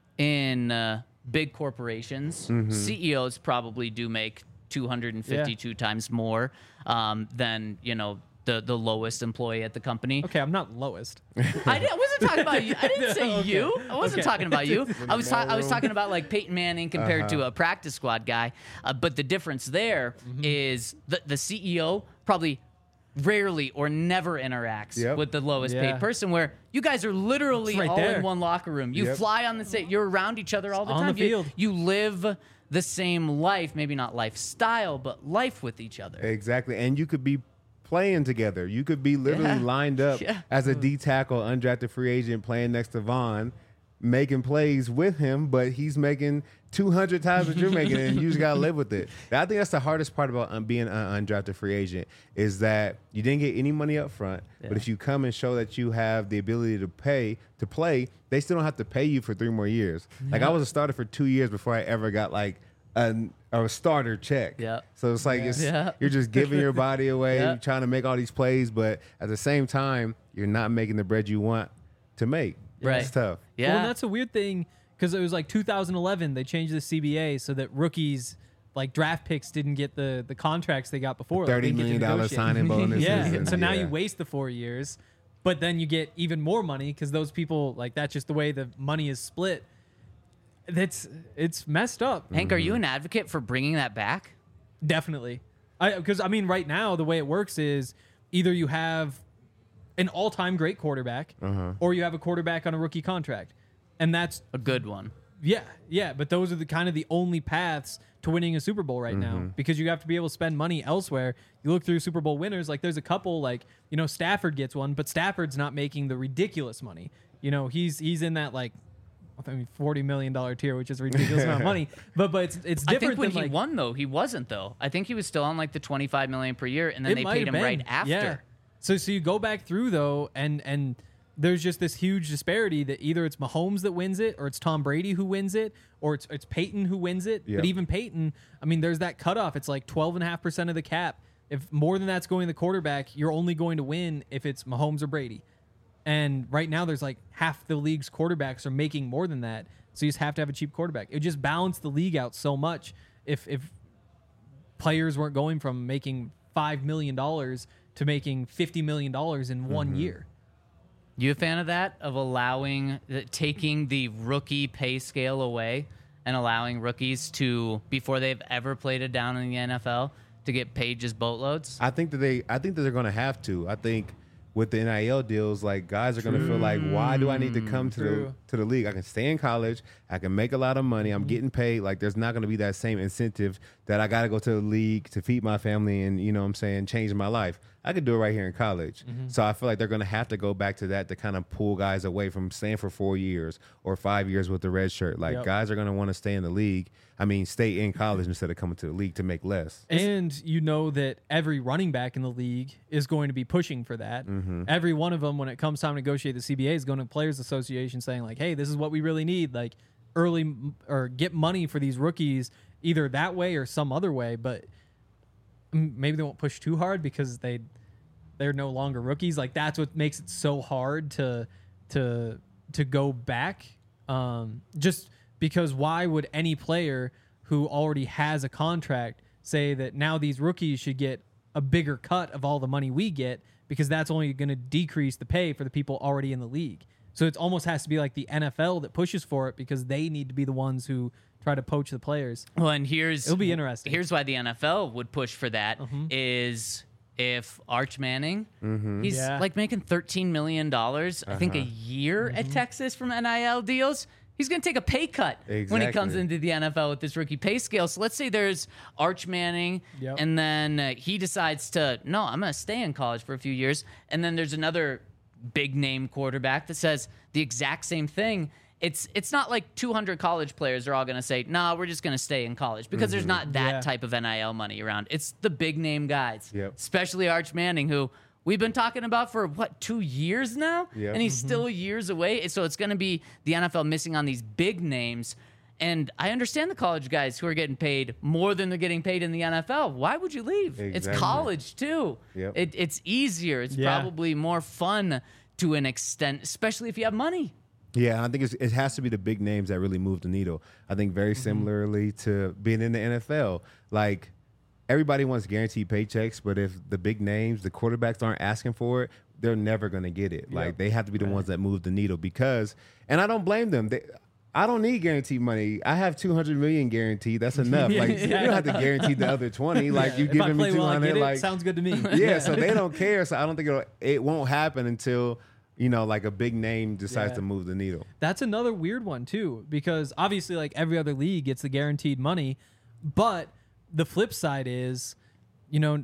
in uh, big corporations, Mm-hmm. C E Os probably do make two hundred fifty-two times more um, than you know the the lowest employee at the company. Okay, I'm not lowest. I, did, I wasn't talking about you. I didn't say Okay. you. I wasn't Okay. talking about you. I was ta- I was room. talking about like Peyton Manning compared to a practice squad guy. Uh, but the difference there is the the C E O probably rarely or never interacts Yep. with the lowest Yeah. paid person. Where you guys are literally It's right all there. in one locker room. You Yep. fly on the same. You're around each other all the on time. the You- field. You, live the same life, maybe not lifestyle, but life with each other. Exactly. And you could be playing together. You could be literally Yeah. lined up Yeah. as a D tackle, undrafted free agent, playing next to Vaughn, making plays with him, but he's making two hundred times what you're making, and you just got to live with it. I think that's the hardest part about um, being an undrafted free agent is that you didn't get any money up front, but if you come and show that you have the ability to pay, to play, they still don't have to pay you for three more years. Like I was a starter for two years before I ever got like an, a starter check. Yeah. So it's like it's, Yeah. you're just giving your body away, Yeah. you're trying to make all these plays, but at the same time, you're not making the bread you want to make. Right. It's tough. Yeah. Well, and that's a weird thing because it was like two thousand eleven they changed the C B A so that rookies like draft picks didn't get the the contracts they got before. Like, Thirty they didn't get to million dollar negotiate. signing bonuses. Yeah, and, so now yeah. you waste the four years, but then you get even more money because those people like that's just the way the money is split. That's it's messed up. Hank, are you an advocate for bringing that back? Definitely. I because I mean right now the way it works is either you have an all-time great quarterback Uh-huh. or you have a quarterback on a rookie contract. And that's A good one. yeah, yeah, but those are the kind of the only paths to winning a Super Bowl right now because you have to be able to spend money elsewhere. You look through Super Bowl winners, like there's a couple like, you know, Stafford gets one, but Stafford's not making the ridiculous money. You know, he's he's in that like I mean, forty million dollar tier, which is a ridiculous amount of money. But but it's it's I different think when than he like, won though, he wasn't though. I think he was still on like the twenty-five million per year, and then it they might paid have him right been. after. Yeah. So so you go back through though, and and there's just this huge disparity that either it's Mahomes that wins it, or it's Tom Brady who wins it, or it's it's Peyton who wins it. Yeah. But even Peyton, I mean, there's that cutoff. It's like twelve and a half percent of the cap. If more than that's going to the quarterback, you're only going to win if it's Mahomes or Brady. And right now, there's like half the league's quarterbacks are making more than that. So you just have to have a cheap quarterback. It would just balance the league out so much if if players weren't going from making five million dollars to making fifty million dollars in one year. You a fan of that? Of allowing, taking the rookie pay scale away and allowing rookies to, before they've ever played it down in the N F L, to get paid just boatloads? I think that they. I think that they're going to have to. I think with the N I L deals, like guys are going to feel like, why do I need to come to the True. to the league? I can stay in college. I can make a lot of money. I'm getting paid. Like there's not going to be that same incentive that I got to go to the league to feed my family and you know what I'm saying, change my life. I could do it right here in college. So I feel like they're going to have to go back to that to kind of pull guys away from staying for four years or five years with the red shirt. Like Yep. guys are going to want to stay in the league. I mean, stay in college instead of coming to the league to make less. And you know that every running back in the league is going to be pushing for that. Every one of them, when it comes time to negotiate the C B A, is going to Players Association saying like, "Hey, this is what we really need. Like, early m- or get money for these rookies either that way or some other way." But mm, maybe they won't push too hard because they they're no longer rookies. Like that's what makes it so hard to to to go back. Um, just because why would any player who already has a contract say that now these rookies should get a bigger cut of all the money we get, because that's only going to decrease the pay for the people already in the league. So it almost has to be like the N F L that pushes for it because they need to be the ones who try to poach the players. Well, and here's It'll be interesting. Here's why the N F L would push for that is if Arch Manning, he's Yeah. like making thirteen million dollars, I think a year at Texas from N I L deals. He's going to take a pay cut when he comes Exactly. into the N F L with this rookie pay scale. So let's say there's Arch Manning, Yep. and then uh, he decides to, no, I'm going to stay in college for a few years. And then there's another big name quarterback that says the exact same thing. It's it's not like two hundred college players are all going to say, no, nah, we're just going to stay in college, because there's not that Yeah. type of N I L money around. It's the big name guys, Yep. especially Arch Manning, who we've been talking about for, what, two years now? Yep. And he's still years away. So it's going to be the N F L missing on these big names. And I understand the college guys who are getting paid more than they're getting paid in the N F L. Why would you leave? It's Exactly. college, too. Yep. It, it's easier. It's Yeah. probably more fun to an extent, especially if you have money. Yeah, I think it's, it has to be the big names that really move the needle. I think very similarly to being in the N F L, like everybody wants guaranteed paychecks, but if the big names, the quarterbacks aren't asking for it, they're never going to get it. Like they have to be the ones that move the needle because, and I don't blame them. They, I don't need guaranteed money. I have two hundred million guaranteed. That's enough. Like you don't have to guarantee the other twenty. Like you If I giving me play two well, I hundred. get it. Like Sounds good to me. yeah, so they don't care. So I don't think it'll, it won't happen until you know, like a big name decides Yeah. to move the needle. That's another weird one too, because obviously, like every other league gets the guaranteed money, but the flip side is, you know,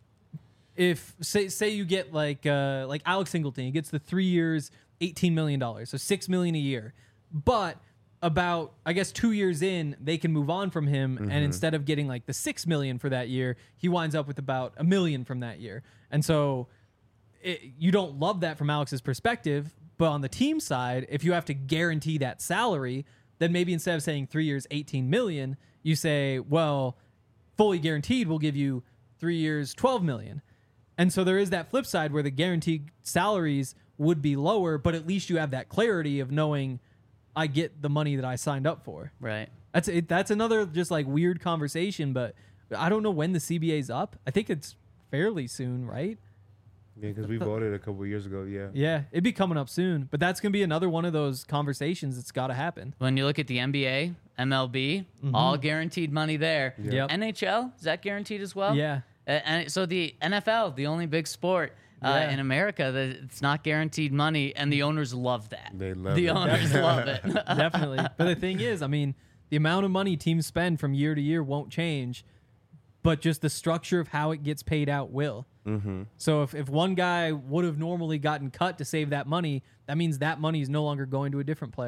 if say say you get like uh, like Alex Singleton, he gets the three years, eighteen million dollars, so six million a year, but about I guess two years in, they can move on from him, Mm-hmm. and instead of getting like the six million for that year, he winds up with about a million from that year, and so. It, you don't love that from Alex's perspective, but on the team side, if you have to guarantee that salary, then maybe instead of saying three years, eighteen million, you say, well, fully guaranteed, we'll give you three years, twelve million. And so there is that flip side where the guaranteed salaries would be lower, but at least you have that clarity of knowing I get the money that I signed up for. Right. That's it. That's another just like weird conversation, but I don't know when the C B A's up. I think it's fairly soon, right? Yeah, because we voted a couple years ago. Yeah. Yeah, it'd be coming up soon, but that's gonna be another one of those conversations that's got to happen. When you look at the N B A, M L B, all guaranteed money there. Yep. N H L, is that guaranteed as well? Yeah. Uh, and so the N F L, the only big sport uh, Yeah. in America that it's not guaranteed money, and the owners love that. They love the it. owners love it. Definitely. But the thing is, I mean, the amount of money teams spend from year to year won't change, but just the structure of how it gets paid out will. Mm-hmm. So if, if one guy would have normally gotten cut to save that money, that means that money is no longer going to a different player.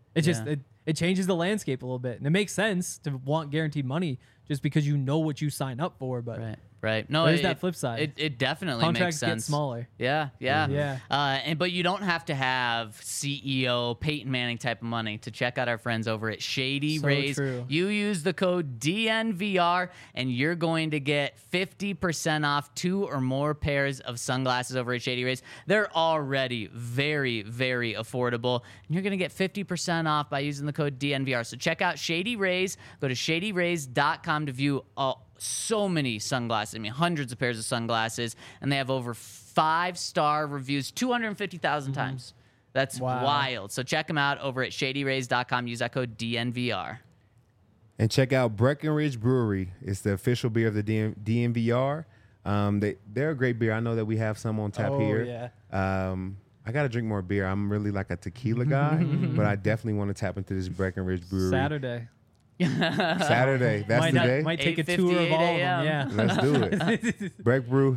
It's just Yeah. it, it changes the landscape a little bit, and it makes sense to want guaranteed money just because you know what you sign up for. But Right. Right. No, There's it, that flip side. It, it definitely contracts makes sense. get smaller. Yeah, yeah, Yeah. Uh, and but you don't have to have C E O Peyton Manning type of money to check out our friends over at Shady So Rays. true. You use the code D N V R, and you're going to get fifty percent off two or more pairs of sunglasses over at Shady Rays. They're already very, very affordable, and you're going to get fifty percent off by using the code D N V R. So check out Shady Rays. Go to shady rays dot com to view all. So many sunglasses. I mean, hundreds of pairs of sunglasses, and they have over five-star reviews, two hundred fifty thousand times. That's Wow. wild. So check them out over at shady rays dot com. Use that code D N V R. And check out Breckenridge Brewery. It's the official beer of the D M- D N V R. Um, they, they're a great beer. I know that we have some on tap Oh, here. yeah. Um, I got to drink more beer. I'm really like a tequila guy, but I definitely want to tap into this Breckenridge Brewery. Saturday. Saturday. That's might the not- day. Might take a tour of all of them. Yeah. Let's do it. Breck Brew.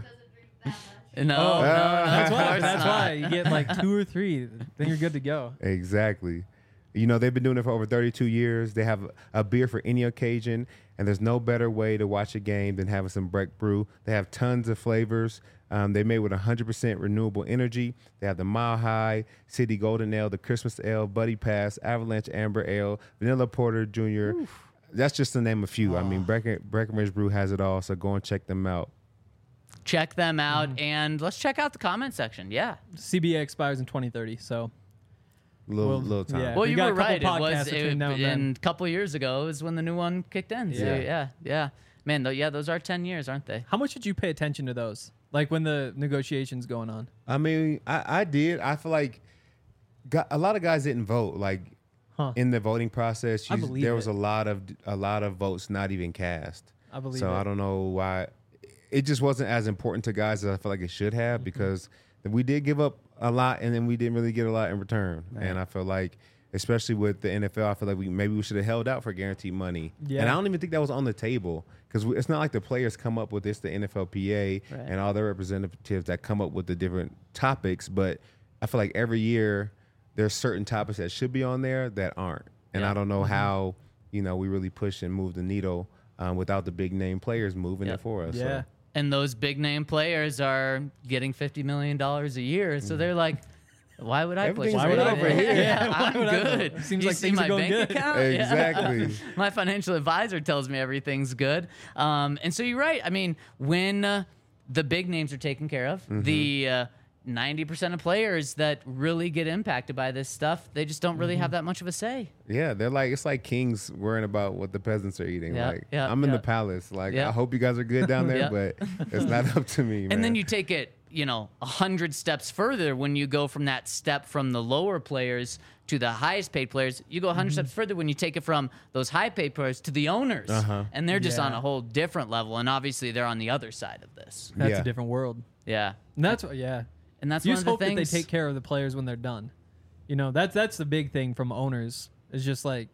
No, Oh, no, no, that's of why. course That's not. why you get like two or three, then you're good to go. Exactly. You know, they've been doing it for over thirty-two years. They have a beer for any occasion, and there's no better way to watch a game than having some Breck Brew. They have tons of flavors. Um, they're made with one hundred percent renewable energy. They have the Mile High, City Golden Ale, the Christmas Ale, Buddy Pass, Avalanche Amber Ale, Vanilla Porter Junior That's just to name a few. I mean, Brecken, Breckenridge Brew has it all, so go and check them out. Check them out, and let's check out the comment section. Yeah. C B A expires in twenty thirty, so Little, Well, little time. yeah. Well, We you got were a couple right. It was podcasts between it, now and then. and a couple years ago is when the new one kicked in. So, Yeah. yeah, yeah. Man, though, yeah, those are ten years, aren't they? how much did you pay attention to those? Like when the negotiations going on? I mean, I, I did. I feel like got, a lot of guys didn't vote. Like Huh. in the voting process, I you- believe there was it. a lot of a lot of votes not even cast. I believe so it. I don't know why. It just wasn't as important to guys as I feel like it should have Mm-hmm. because we did give up a lot and then we didn't really get a lot in return. And I feel like, especially with the N F L, I feel like we maybe we should have held out for guaranteed money. Yeah. And I don't even think that was on the table because it's not like the players come up with this, the N F L P A Right. and all their representatives that come up with the different topics. But I feel like every year there's certain topics that should be on there that aren't. And Yeah. I don't know how, you know, we really push and move the needle um, without the big name players moving Yep. it for us. Yeah. So. And those big name players are getting fifty million dollars a year. So they're like, why would I push Everything's it? good over here. Yeah, Why I'm would I good. vote? Seems You like see things my are going bank good. account? Yeah. Exactly. My financial advisor tells me everything's good. Um, and so you're right. I mean, when uh, the big names are taken care of, Mm-hmm. the uh, ninety percent of players that really get impacted by this stuff, they just don't really Mm-hmm. have that much of a say. Yeah, they're like it's like kings worrying about what the peasants are eating. Yeah, like yeah, I'm in yeah. the palace. Like Yeah. I hope you guys are good down there, Yeah. but it's not up to me, man. And then you take it, you know, a hundred steps further when you go from that step from the lower players to the highest paid players. You go a 100 Mm-hmm. steps further when you take it from those high paid players to the owners, Uh-huh. and they're just Yeah. on a whole different level. And obviously, they're on the other side of this. That's Yeah. a different world. Yeah, And that's what, yeah. and that's You one just of the hope that things. they take care of the players when they're done. You know, that's that's the big thing from owners. Is just like,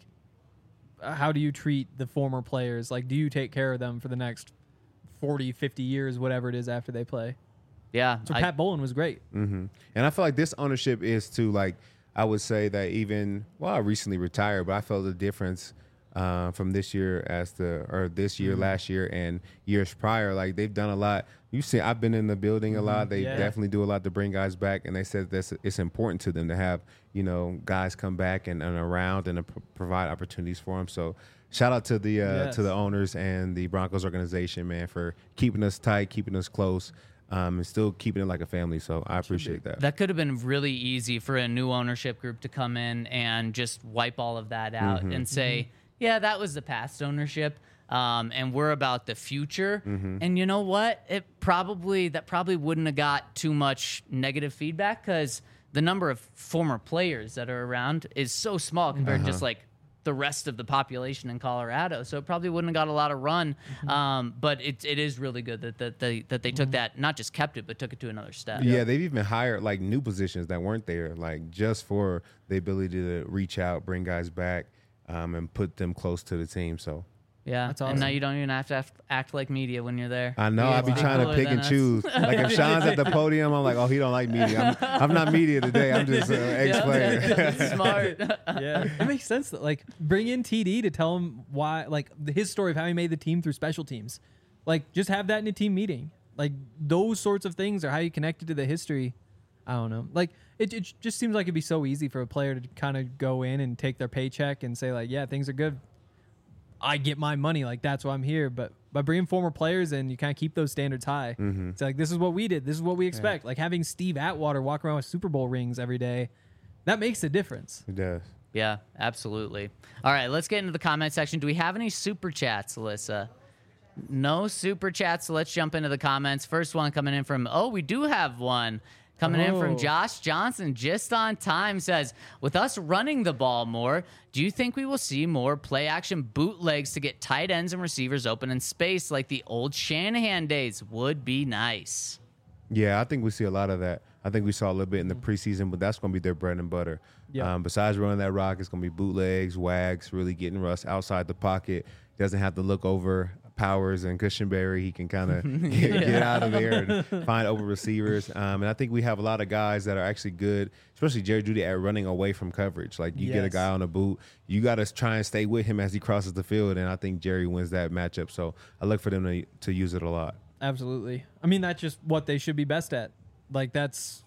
uh, how do you treat the former players? Like, do you take care of them for the next forty, fifty years, whatever it is after they play? yeah, So I- Pat Bowlen was great. hmm And I feel like this ownership is to like I would say that even well, I recently retired, but I felt the difference uh, from this year as the or this year, Mm-hmm. last year, and years prior. Like they've done a lot. You see, I've been in the building a lot. They Mm-hmm. Yeah. definitely do a lot to bring guys back, and they said that it's important to them to have you know guys come back and, and around and to p- provide opportunities for them. So. Shout out to the uh, Yes. to the owners and the Broncos organization, man, for keeping us tight, keeping us close, um, and still keeping it like a family. So I appreciate that. That could have been really easy for a new ownership group to come in and just wipe all of that out Mm-hmm. and say, yeah, that was the past ownership. Um, and we're about the future. Mm-hmm. And you know what? It probably, that probably wouldn't have got too much negative feedback because the number of former players that are around is so small compared to Uh-huh. just like the rest of the population in Colorado. So it probably wouldn't have got a lot of run. Mm-hmm. Um, but it, it is really good that, that they, that they took that, not just kept it, but took it to another step. Yeah, they've even hired like new positions that weren't there, like just for the ability to reach out, bring guys back, um, and put them close to the team. So Yeah, That's and now awesome. you don't even have to act, act like media when you're there. I know. You I get be to trying to cooler pick than and us. choose. Like if Sean's at the podium, I'm like, oh, he don't like media. I'm, I'm not media today. I'm just an ex-player. Yeah, smart. Yeah, it makes sense. That, like, bring in T D to tell him why, like, the- his story of how he made the team through special teams. Like, just have that in a team meeting. Like, those sorts of things are how you connected to the history. I don't know. Like, it, it just seems like it'd be so easy for a player to kind of go in and take their paycheck and say, like, yeah, things are good. I get my money. Like, that's why I'm here. But by bringing former players in, you kind of keep those standards high. Mm-hmm. It's like, this is what we did. This is what we expect. Like, having Steve Atwater walk around with Super Bowl rings every day, that makes a difference. It does. Yeah, absolutely. All right, let's get into the comment section. Do we have any super chats, Alyssa? No super chats, so let's jump into the comments. First one coming in from, oh, we do have one. Coming in from Oh. Josh Johnson, just on time, says, with us running the ball more, do you think we will see more play action bootlegs to get tight ends and receivers open in space like the old Shanahan days? Would be nice. Yeah, I think we see a lot of that. I think we saw a little bit in the preseason, but that's going to be their bread and butter. Yeah. Um, besides running that rock, it's going to be bootlegs, wags, really getting Russ outside the pocket. Doesn't have to look over Powers and Cushenberry. He can kind of get, get out of there and find open receivers. Um, and I think we have a lot of guys that are actually good, especially Jerry Jeudy, at running away from coverage. Like you get a Yes. guy on a boot, you got to try and stay with him as he crosses the field. And I think Jerry wins that matchup. So I look for them to, to use it a lot. Absolutely. I mean, that's just what they should be best at. Like, that's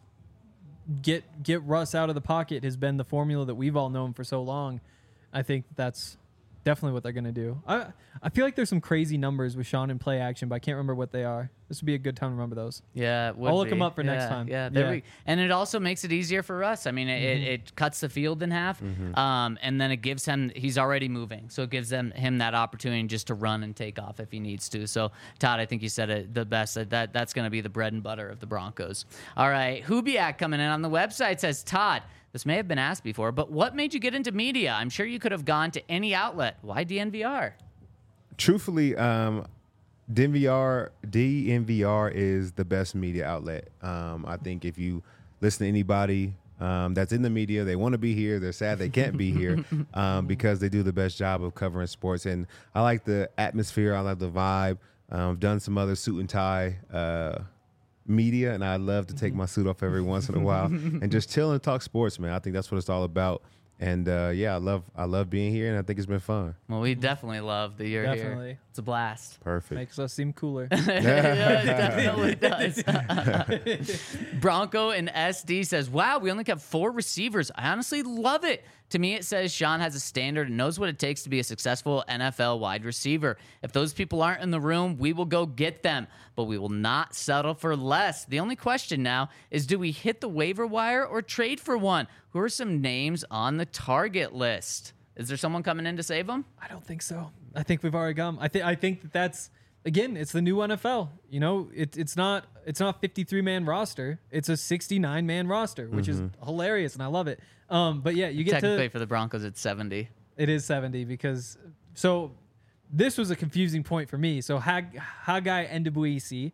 get get Russ out of the pocket has been the formula that we've all known for so long. I think that's definitely what they're going to do. I I feel like there's some crazy numbers with Sean in play action, but I can't remember what they are. This would be a good time to remember those. Yeah, it would I'll look be. 'em up for next Yeah, time. Yeah, there Yeah. we. And it also makes it easier for us. I mean, it, Mm-hmm. it, it cuts the field in half, um, and then it gives him. He's already moving, so it gives them him that opportunity just to run and take off if he needs to. So, Todd, I think you said it the best. That, that that's going to be the bread and butter of the Broncos. All right, Hubiak coming in on the website says, Todd, this may have been asked before, but what made you get into media? I'm sure you could have gone to any outlet. Why D N V R? Truthfully, um, D N V R, D N V R is the best media outlet. Um, I think if you listen to anybody um, that's in the media, they want to be here. They're sad they can't be here um, because they do the best job of covering sports. And I like the atmosphere. I like the vibe. Um, I've done some other suit and tie uh, media, and I love to take my suit off every once in a while and just chill and talk sports, man. I think that's what it's all about. And uh, yeah, I love I love being here, and I think it's been fun. Well, we definitely love that you're here. Definitely. It's a blast. Perfect. Makes us seem cooler. Yeah, it definitely does. Bronco and S D says, wow, we only kept four receivers. I honestly love it. To me, it says Sean has a standard and knows what it takes to be a successful N F L wide receiver. If those people aren't in the room, we will go get them, but we will not settle for less. The only question now is, do we hit the waiver wire or trade for one? Who are some names on the target list? Is there someone coming in to save them? I don't think so. I think we've already gone. I think I think that that's again, it's the new N F L. You know, it, it's not it's not fifty-three man roster. It's a sixty-nine man roster, which is hilarious, and I love it. Um, but yeah, you get Technically, to for the Broncos, it's seventy. it is seventy because so this was a confusing point for me. So Hag Haggai Endebuisi.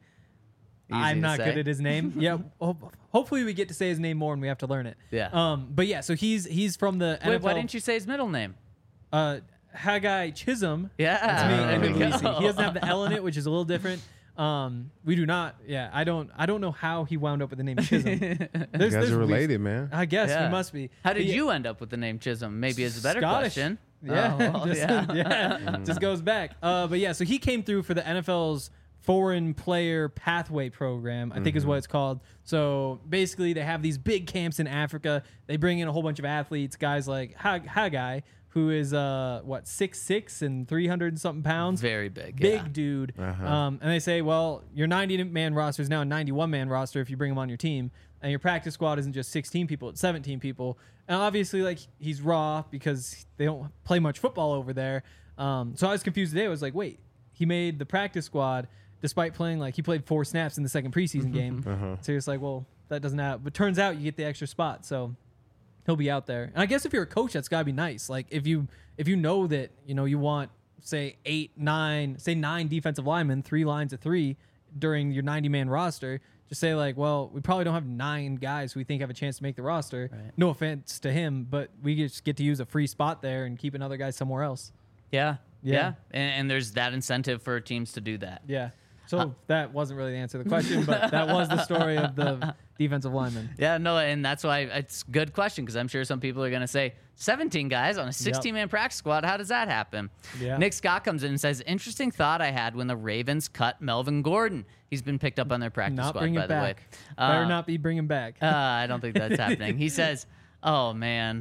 I'm to not say. good at his name. Yeah, ho- hopefully we get to say his name more and we have to learn it. Yeah. Um, but yeah, so he's he's from the N F L. Wait, why didn't you say his middle name? Uh, Haggai Chisholm. Yeah. That's me. There we Endebuisi. go. He doesn't have the L in it, which is a little different. Um, we do not. Yeah, I don't. I don't know how he wound up with the name Chisholm. There's, You guys there's are weird- related, man. I guess Yeah. we must be. How did But yeah, you end up with the name Chisholm? Maybe is a better Scottish. question. Yeah, Oh, well, just, yeah. yeah, just goes back. Uh, but yeah, so he came through for the N F L's Foreign Player Pathway Program, I think is what it's called. So basically, they have these big camps in Africa. They bring in a whole bunch of athletes, guys like Hag- Haggai, who is uh what six six and three hundred and something pounds. Very big. Big yeah. dude. Uh-huh. Um, and they say, well, your ninety man roster is now a ninety-one man roster if you bring him on your team. And your practice squad isn't just sixteen people, it's seventeen people. And obviously, like, he's raw because they don't play much football over there. Um, so I was confused today. I was like, wait, he made the practice squad despite playing, like, he played four snaps in the second preseason game. Uh-huh. So you're just like, well, that doesn't happen. But turns out you get the extra spot. So he'll be out there. And I guess if you're a coach, that's got to be nice. Like, if you if you know that, you know, you want, say, eight, nine, say nine defensive linemen, three lines of three during your ninety man roster, just say, like, well, we probably don't have nine guys who we think have a chance to make the roster. Right. No offense to him, but we just get to use a free spot there and keep another guy somewhere else. Yeah. Yeah. Yeah. And, and there's that incentive for teams to do that. Yeah. So Uh, that wasn't really the answer to the question, but that was the story of the defensive lineman. Yeah, no, and that's why it's a good question because I'm sure some people are going to say seventeen guys on a sixteen-man practice squad. How does that happen? Yeah. Nick Scott comes in and says, interesting thought I had when the Ravens cut Melvin Gordon. He's been picked up on their practice Not squad, bring by it the way. back. Better Uh, not be bringing back. Uh, I don't think that's happening. He says, oh, man,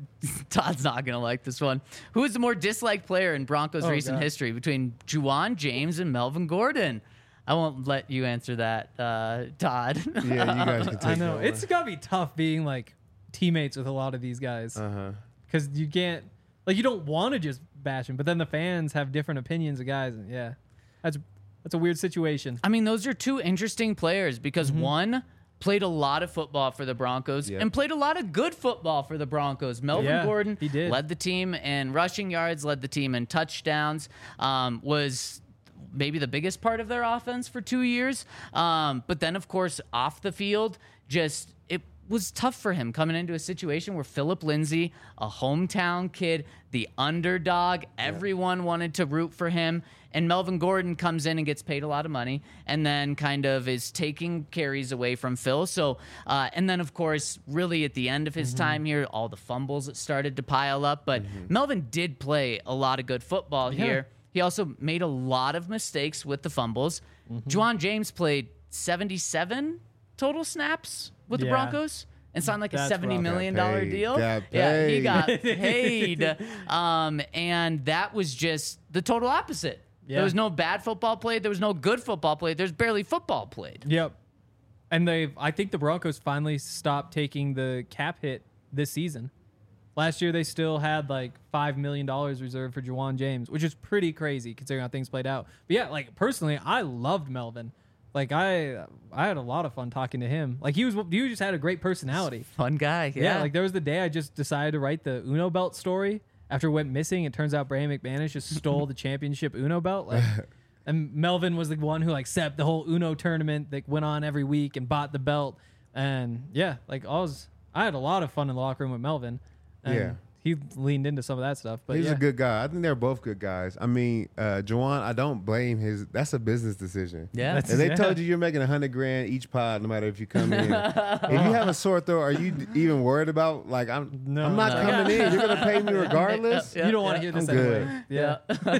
Todd's not going to like this one. Who is the more disliked player in Broncos Oh, recent God. history between Juwan James and Melvin Gordon? I won't let you answer that, uh, Todd. Yeah, you guys can take I know. that It's got to be tough being like teammates with a lot of these guys Uh huh. because you can't, like, you don't want to just bash them, but then the fans have different opinions of guys. And yeah, that's that's a weird situation. I mean, those are two interesting players because Mm-hmm. one played a lot of football for the Broncos Yep. and played a lot of good football for the Broncos. Melvin Yeah, Gordon he did. led the team in rushing yards, led the team in touchdowns, um, was maybe the biggest part of their offense for two years. Um, but then, of course, off the field, just it was tough for him coming into a situation where Philip Lindsay, a hometown kid, the underdog, everyone wanted to root for him. And Melvin Gordon comes in and gets paid a lot of money and then kind of is taking carries away from Phil. So, uh, and then, of course, really at the end of his Mm-hmm. time here, all the fumbles that started to pile up. But Melvin did play a lot of good football Yeah. here. He also made a lot of mistakes with the fumbles. Mm-hmm. Juwan James played seventy-seven total snaps with the Yeah. Broncos and signed like a That's seventy rough. million Got dollar paid. deal. Got Yeah, he paid. got paid. um, and that was just the total opposite. There Yeah. was no bad football played. There was no good football played. There's barely football played. Yep. And they've, I think the Broncos finally stopped taking the cap hit this season. Last year, they still had like five million dollars reserved for Juwan James, which is pretty crazy considering how things played out. But yeah, like personally, I loved Melvin. Like I, I had a lot of fun talking to him. Like he was, he just had a great personality. Fun guy. Yeah. Yeah. Like there was the day I just decided to write the Uno belt story after it went missing. It turns out Brandon McManus just stole the championship Uno belt. Like, and Melvin was the one who like set up the whole Uno tournament that went on every week and bought the belt. And yeah, like I was, I had a lot of fun in the locker room with Melvin. And Yeah. he leaned into some of that stuff. But He's yeah. a good guy. I think they're both good guys. I mean, uh, Juwan, I don't blame his. That's a business decision. Yeah. That's- And they Yeah. told you you're making a hundred grand each pod, no matter if you come in. If you have a sore throat, are you d- even worried about like I'm? No, I'm not no. coming in. You're gonna pay me regardless. Yeah, you don't want yeah. to hear this I'm anyway. Yeah.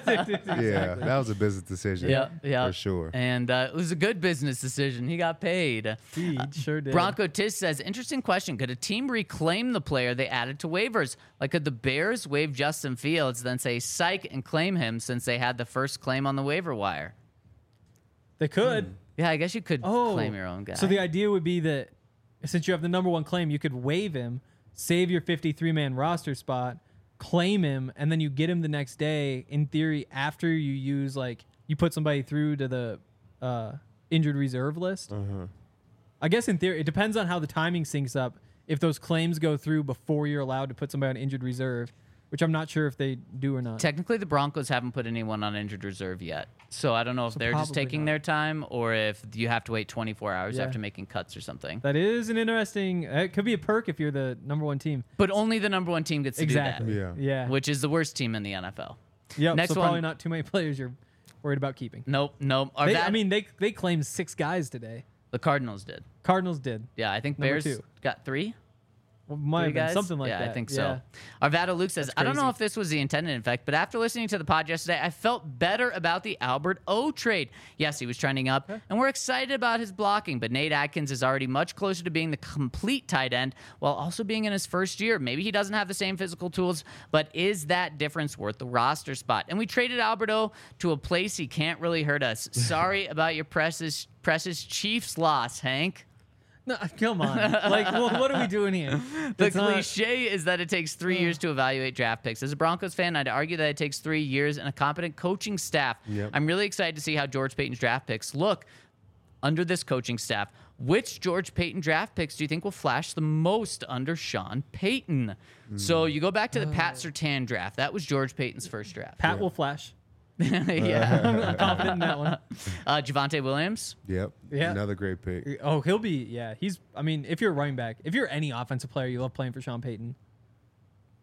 Yeah, that was a business decision. Yeah, yeah, for sure. And uh, it was a good business decision. He got paid. He sure did. Bronco Tiz says, interesting question. Could a team reclaim the player they added to waivers? Like, could the Bears waive Justin Fields, then say psych and claim him since they had the first claim on the waiver wire? They could. Yeah, I guess you could Oh, claim your own guy. So the idea would be that since you have the number one claim, you could waive him, save your fifty-three man roster spot, claim him, and then you get him the next day. In theory, after you use like you put somebody through to the uh, injured reserve list. Uh-huh. I guess in theory, it depends on how the timing syncs up. If those claims go through before you're allowed to put somebody on injured reserve, which I'm not sure if they do or not. Technically, the Broncos haven't put anyone on injured reserve yet. So I don't know if So they're just probably taking not. their time or if you have to wait twenty-four hours Yeah. after making cuts or something. That is an interesting. It could be a perk if you're the number one team. But only the number one team gets to Exactly. do Yeah. Yeah. that, which is the worst team in the N F L. Yep. Next so probably one. not too many players you're worried about keeping. Nope, nope. Our They, bad- I mean, they they claimed six guys today. the Cardinals did. Cardinals did. Yeah, I think Number Bears two. got three. Well, might Three have been guys? something like yeah, that. I think Yeah. so. Arvada Luke says, That's I don't know crazy. if this was the intended effect, but after listening to the pod yesterday, I felt better about the Albert O trade. Yes, he was trending up, and we're excited about his blocking, but Nate Atkins is already much closer to being the complete tight end while also being in his first year. Maybe he doesn't have the same physical tools, but is that difference worth the roster spot? And we traded Albert O to a place he can't really hurt us. Sorry about your precious, precious Chiefs loss, Hank. No, come on. Like, well, what are we doing here? The It's not- cliche is that it takes three years to evaluate draft picks. As a Broncos fan, I'd argue that it takes three years and a competent coaching staff. Yep. I'm really excited to see how George Payton's draft picks look under this coaching staff. Which George Payton draft picks do you think will flash the most under Sean Payton? So you go back to the Pat Surtain draft. That was George Payton's first draft. Pat will flash. yeah. I'm confident in that one. Uh, Javonte Williams. Yep. Yeah. Another great pick. Oh, he'll be. Yeah, he's. I mean, if you're a running back, if you're any offensive player, you love playing for Sean Payton.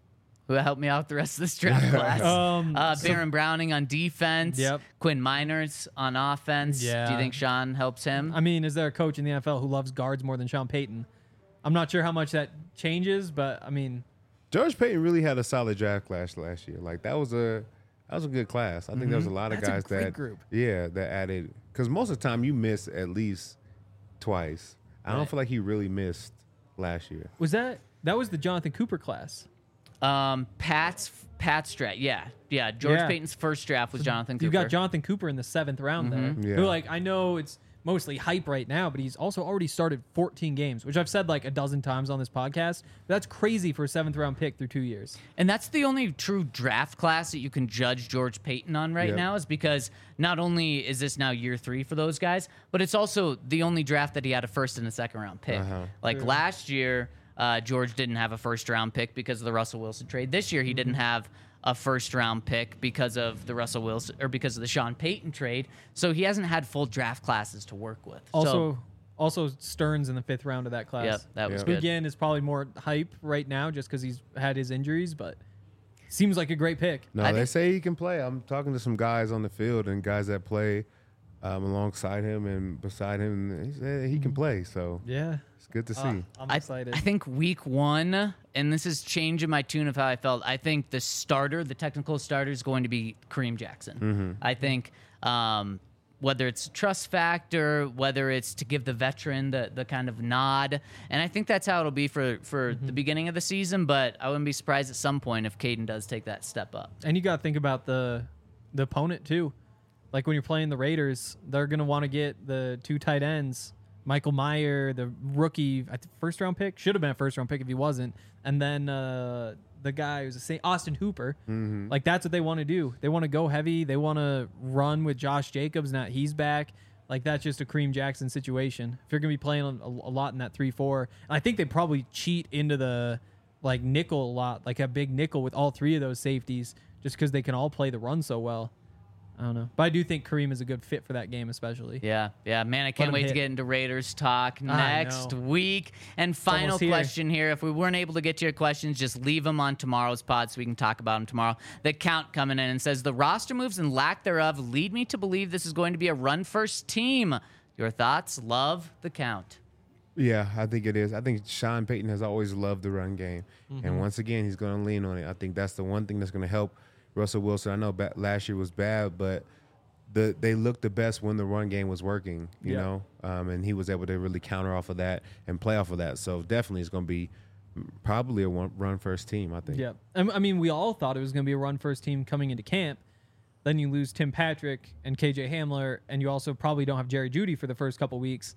who helped me out the rest of this draft class. Um, uh, so- Baron Browning on defense. Yep. Quinn Miners on offense. Yeah. Do you think Sean helps him? I mean, is there a coach in the N F L who loves guards more than Sean Payton? I'm not sure how much that changes, but I mean, George Payton really had a solid draft class last year. Like that was a that was a good class. I think there was a lot of That's a guys great that group. yeah that added because most of the time you miss at least twice. I don't Right. feel like he really missed last year. was that that was the Jonathan Cooper class? Um, Pat's Pat's draft. Yeah, yeah. George Yeah. Payton's first draft was Jonathan Cooper. You got Jonathan Cooper in the seventh round there. Yeah. Who, like, I know it's mostly hype right now, but he's also already started fourteen games, which I've said like a dozen times on this podcast. But that's crazy for a seventh round pick through two years. And that's the only true draft class that you can judge George Payton on right Yep. now, is because not only is this now year three for those guys, but it's also the only draft that he had a first and a second round pick. Uh-huh. Like last year, uh, George didn't have a first round pick because of the Russell Wilson trade. This year, he didn't have a first round pick because of the Russell Wilson or because of the Sean Payton trade. So he hasn't had full draft classes to work with. Also, so, also Stearns in the fifth round of that class. yep, that was Yep. good. Again, is probably more hype right now just because he's had his injuries, but seems like a great pick. No, I they think- say he can play. I'm talking to some guys on the field and guys that play um, alongside him and beside him. And he said he can play, so Yeah, it's good to see. I'm I, excited. I think week one, and this is changing my tune of how I felt. I think the starter, the technical starter, is going to be Kareem Jackson. Mm-hmm. I think um, whether it's trust factor, whether it's to give the veteran the, the kind of nod, and I think that's how it'll be for, for Mm-hmm. the beginning of the season, but I wouldn't be surprised at some point if Caden does take that step up. And you got to think about the the opponent too. Like when you're playing the Raiders, they're gonna want to get the two tight ends, Michael Mayer, the rookie, I think first round pick, should have been a first round pick if he wasn't, and then uh, the guy who's a Saint Austin Hooper. Like that's what they want to do. They want to go heavy. They want to run with Josh Jacobs. Now he's back. Like that's just a Kareem Jackson situation. If you're gonna be playing a, a lot in that three four, and I think they probably cheat into the like nickel a lot, like a big nickel with all three of those safeties, just because they can all play the run so well. I don't know, but I do think Kareem is a good fit for that game, especially. Yeah, yeah, man, I can't him wait to hit. get into Raiders talk I next know. week. And final almost here. question here. If we weren't able to get to your questions, just leave them on tomorrow's pod so we can talk about them tomorrow. The count coming in and says, the roster moves and lack thereof lead me to believe this is going to be a run-first team. Your thoughts? Love the count. Yeah, I think it is. I think Sean Payton has always loved the run game. And once again, he's going to lean on it. I think that's the one thing that's going to help Russell Wilson. I know ba- last year was bad, but the they looked the best when the run game was working, you Yeah. know, um, and he was able to really counter off of that and play off of that. So definitely it's going to be probably a one, run-first team, I think. Yeah. I I mean, we all thought it was going to be a run first team coming into camp. Then you lose Tim Patrick and K J Hamler, and you also probably don't have Jerry Jeudy for the first couple weeks.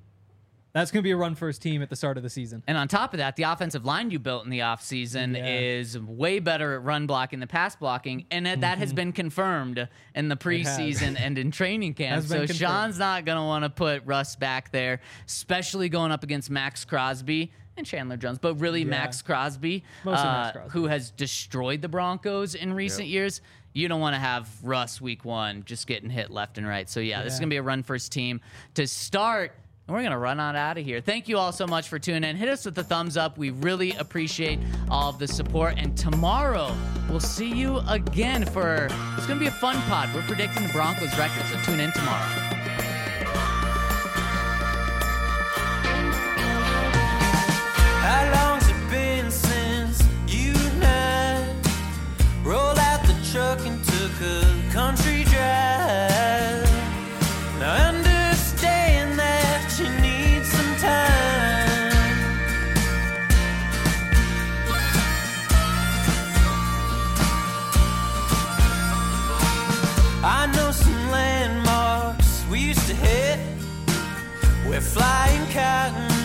That's going to be a run first team at the start of the season. And on top of that, the offensive line you built in the offseason Yeah. is way better at run blocking than pass blocking. And that that has been confirmed in the preseason and in training camp. Has been So confirmed. Sean's not going to want to put Russ back there, especially going up against Max Crosby and Chandler Jones, but really Yeah. Max Crosby, Mostly uh, Max Crosby. who has destroyed the Broncos in recent Yep. years. You don't want to have Russ week one just getting hit left and right. So, yeah, this is Yeah. going to be a run first team to start. And we're going to run on out of here. Thank you all so much for tuning in. Hit us with the thumbs up. We really appreciate all of the support. And tomorrow, we'll see you again for, it's going to be a fun pod. We're predicting the Broncos record, so tune in tomorrow. How long's it been since you and I rolled out the truck and took a country drive? Now I understand that you need some time. I know some landmarks we used to hit. We're flying cotton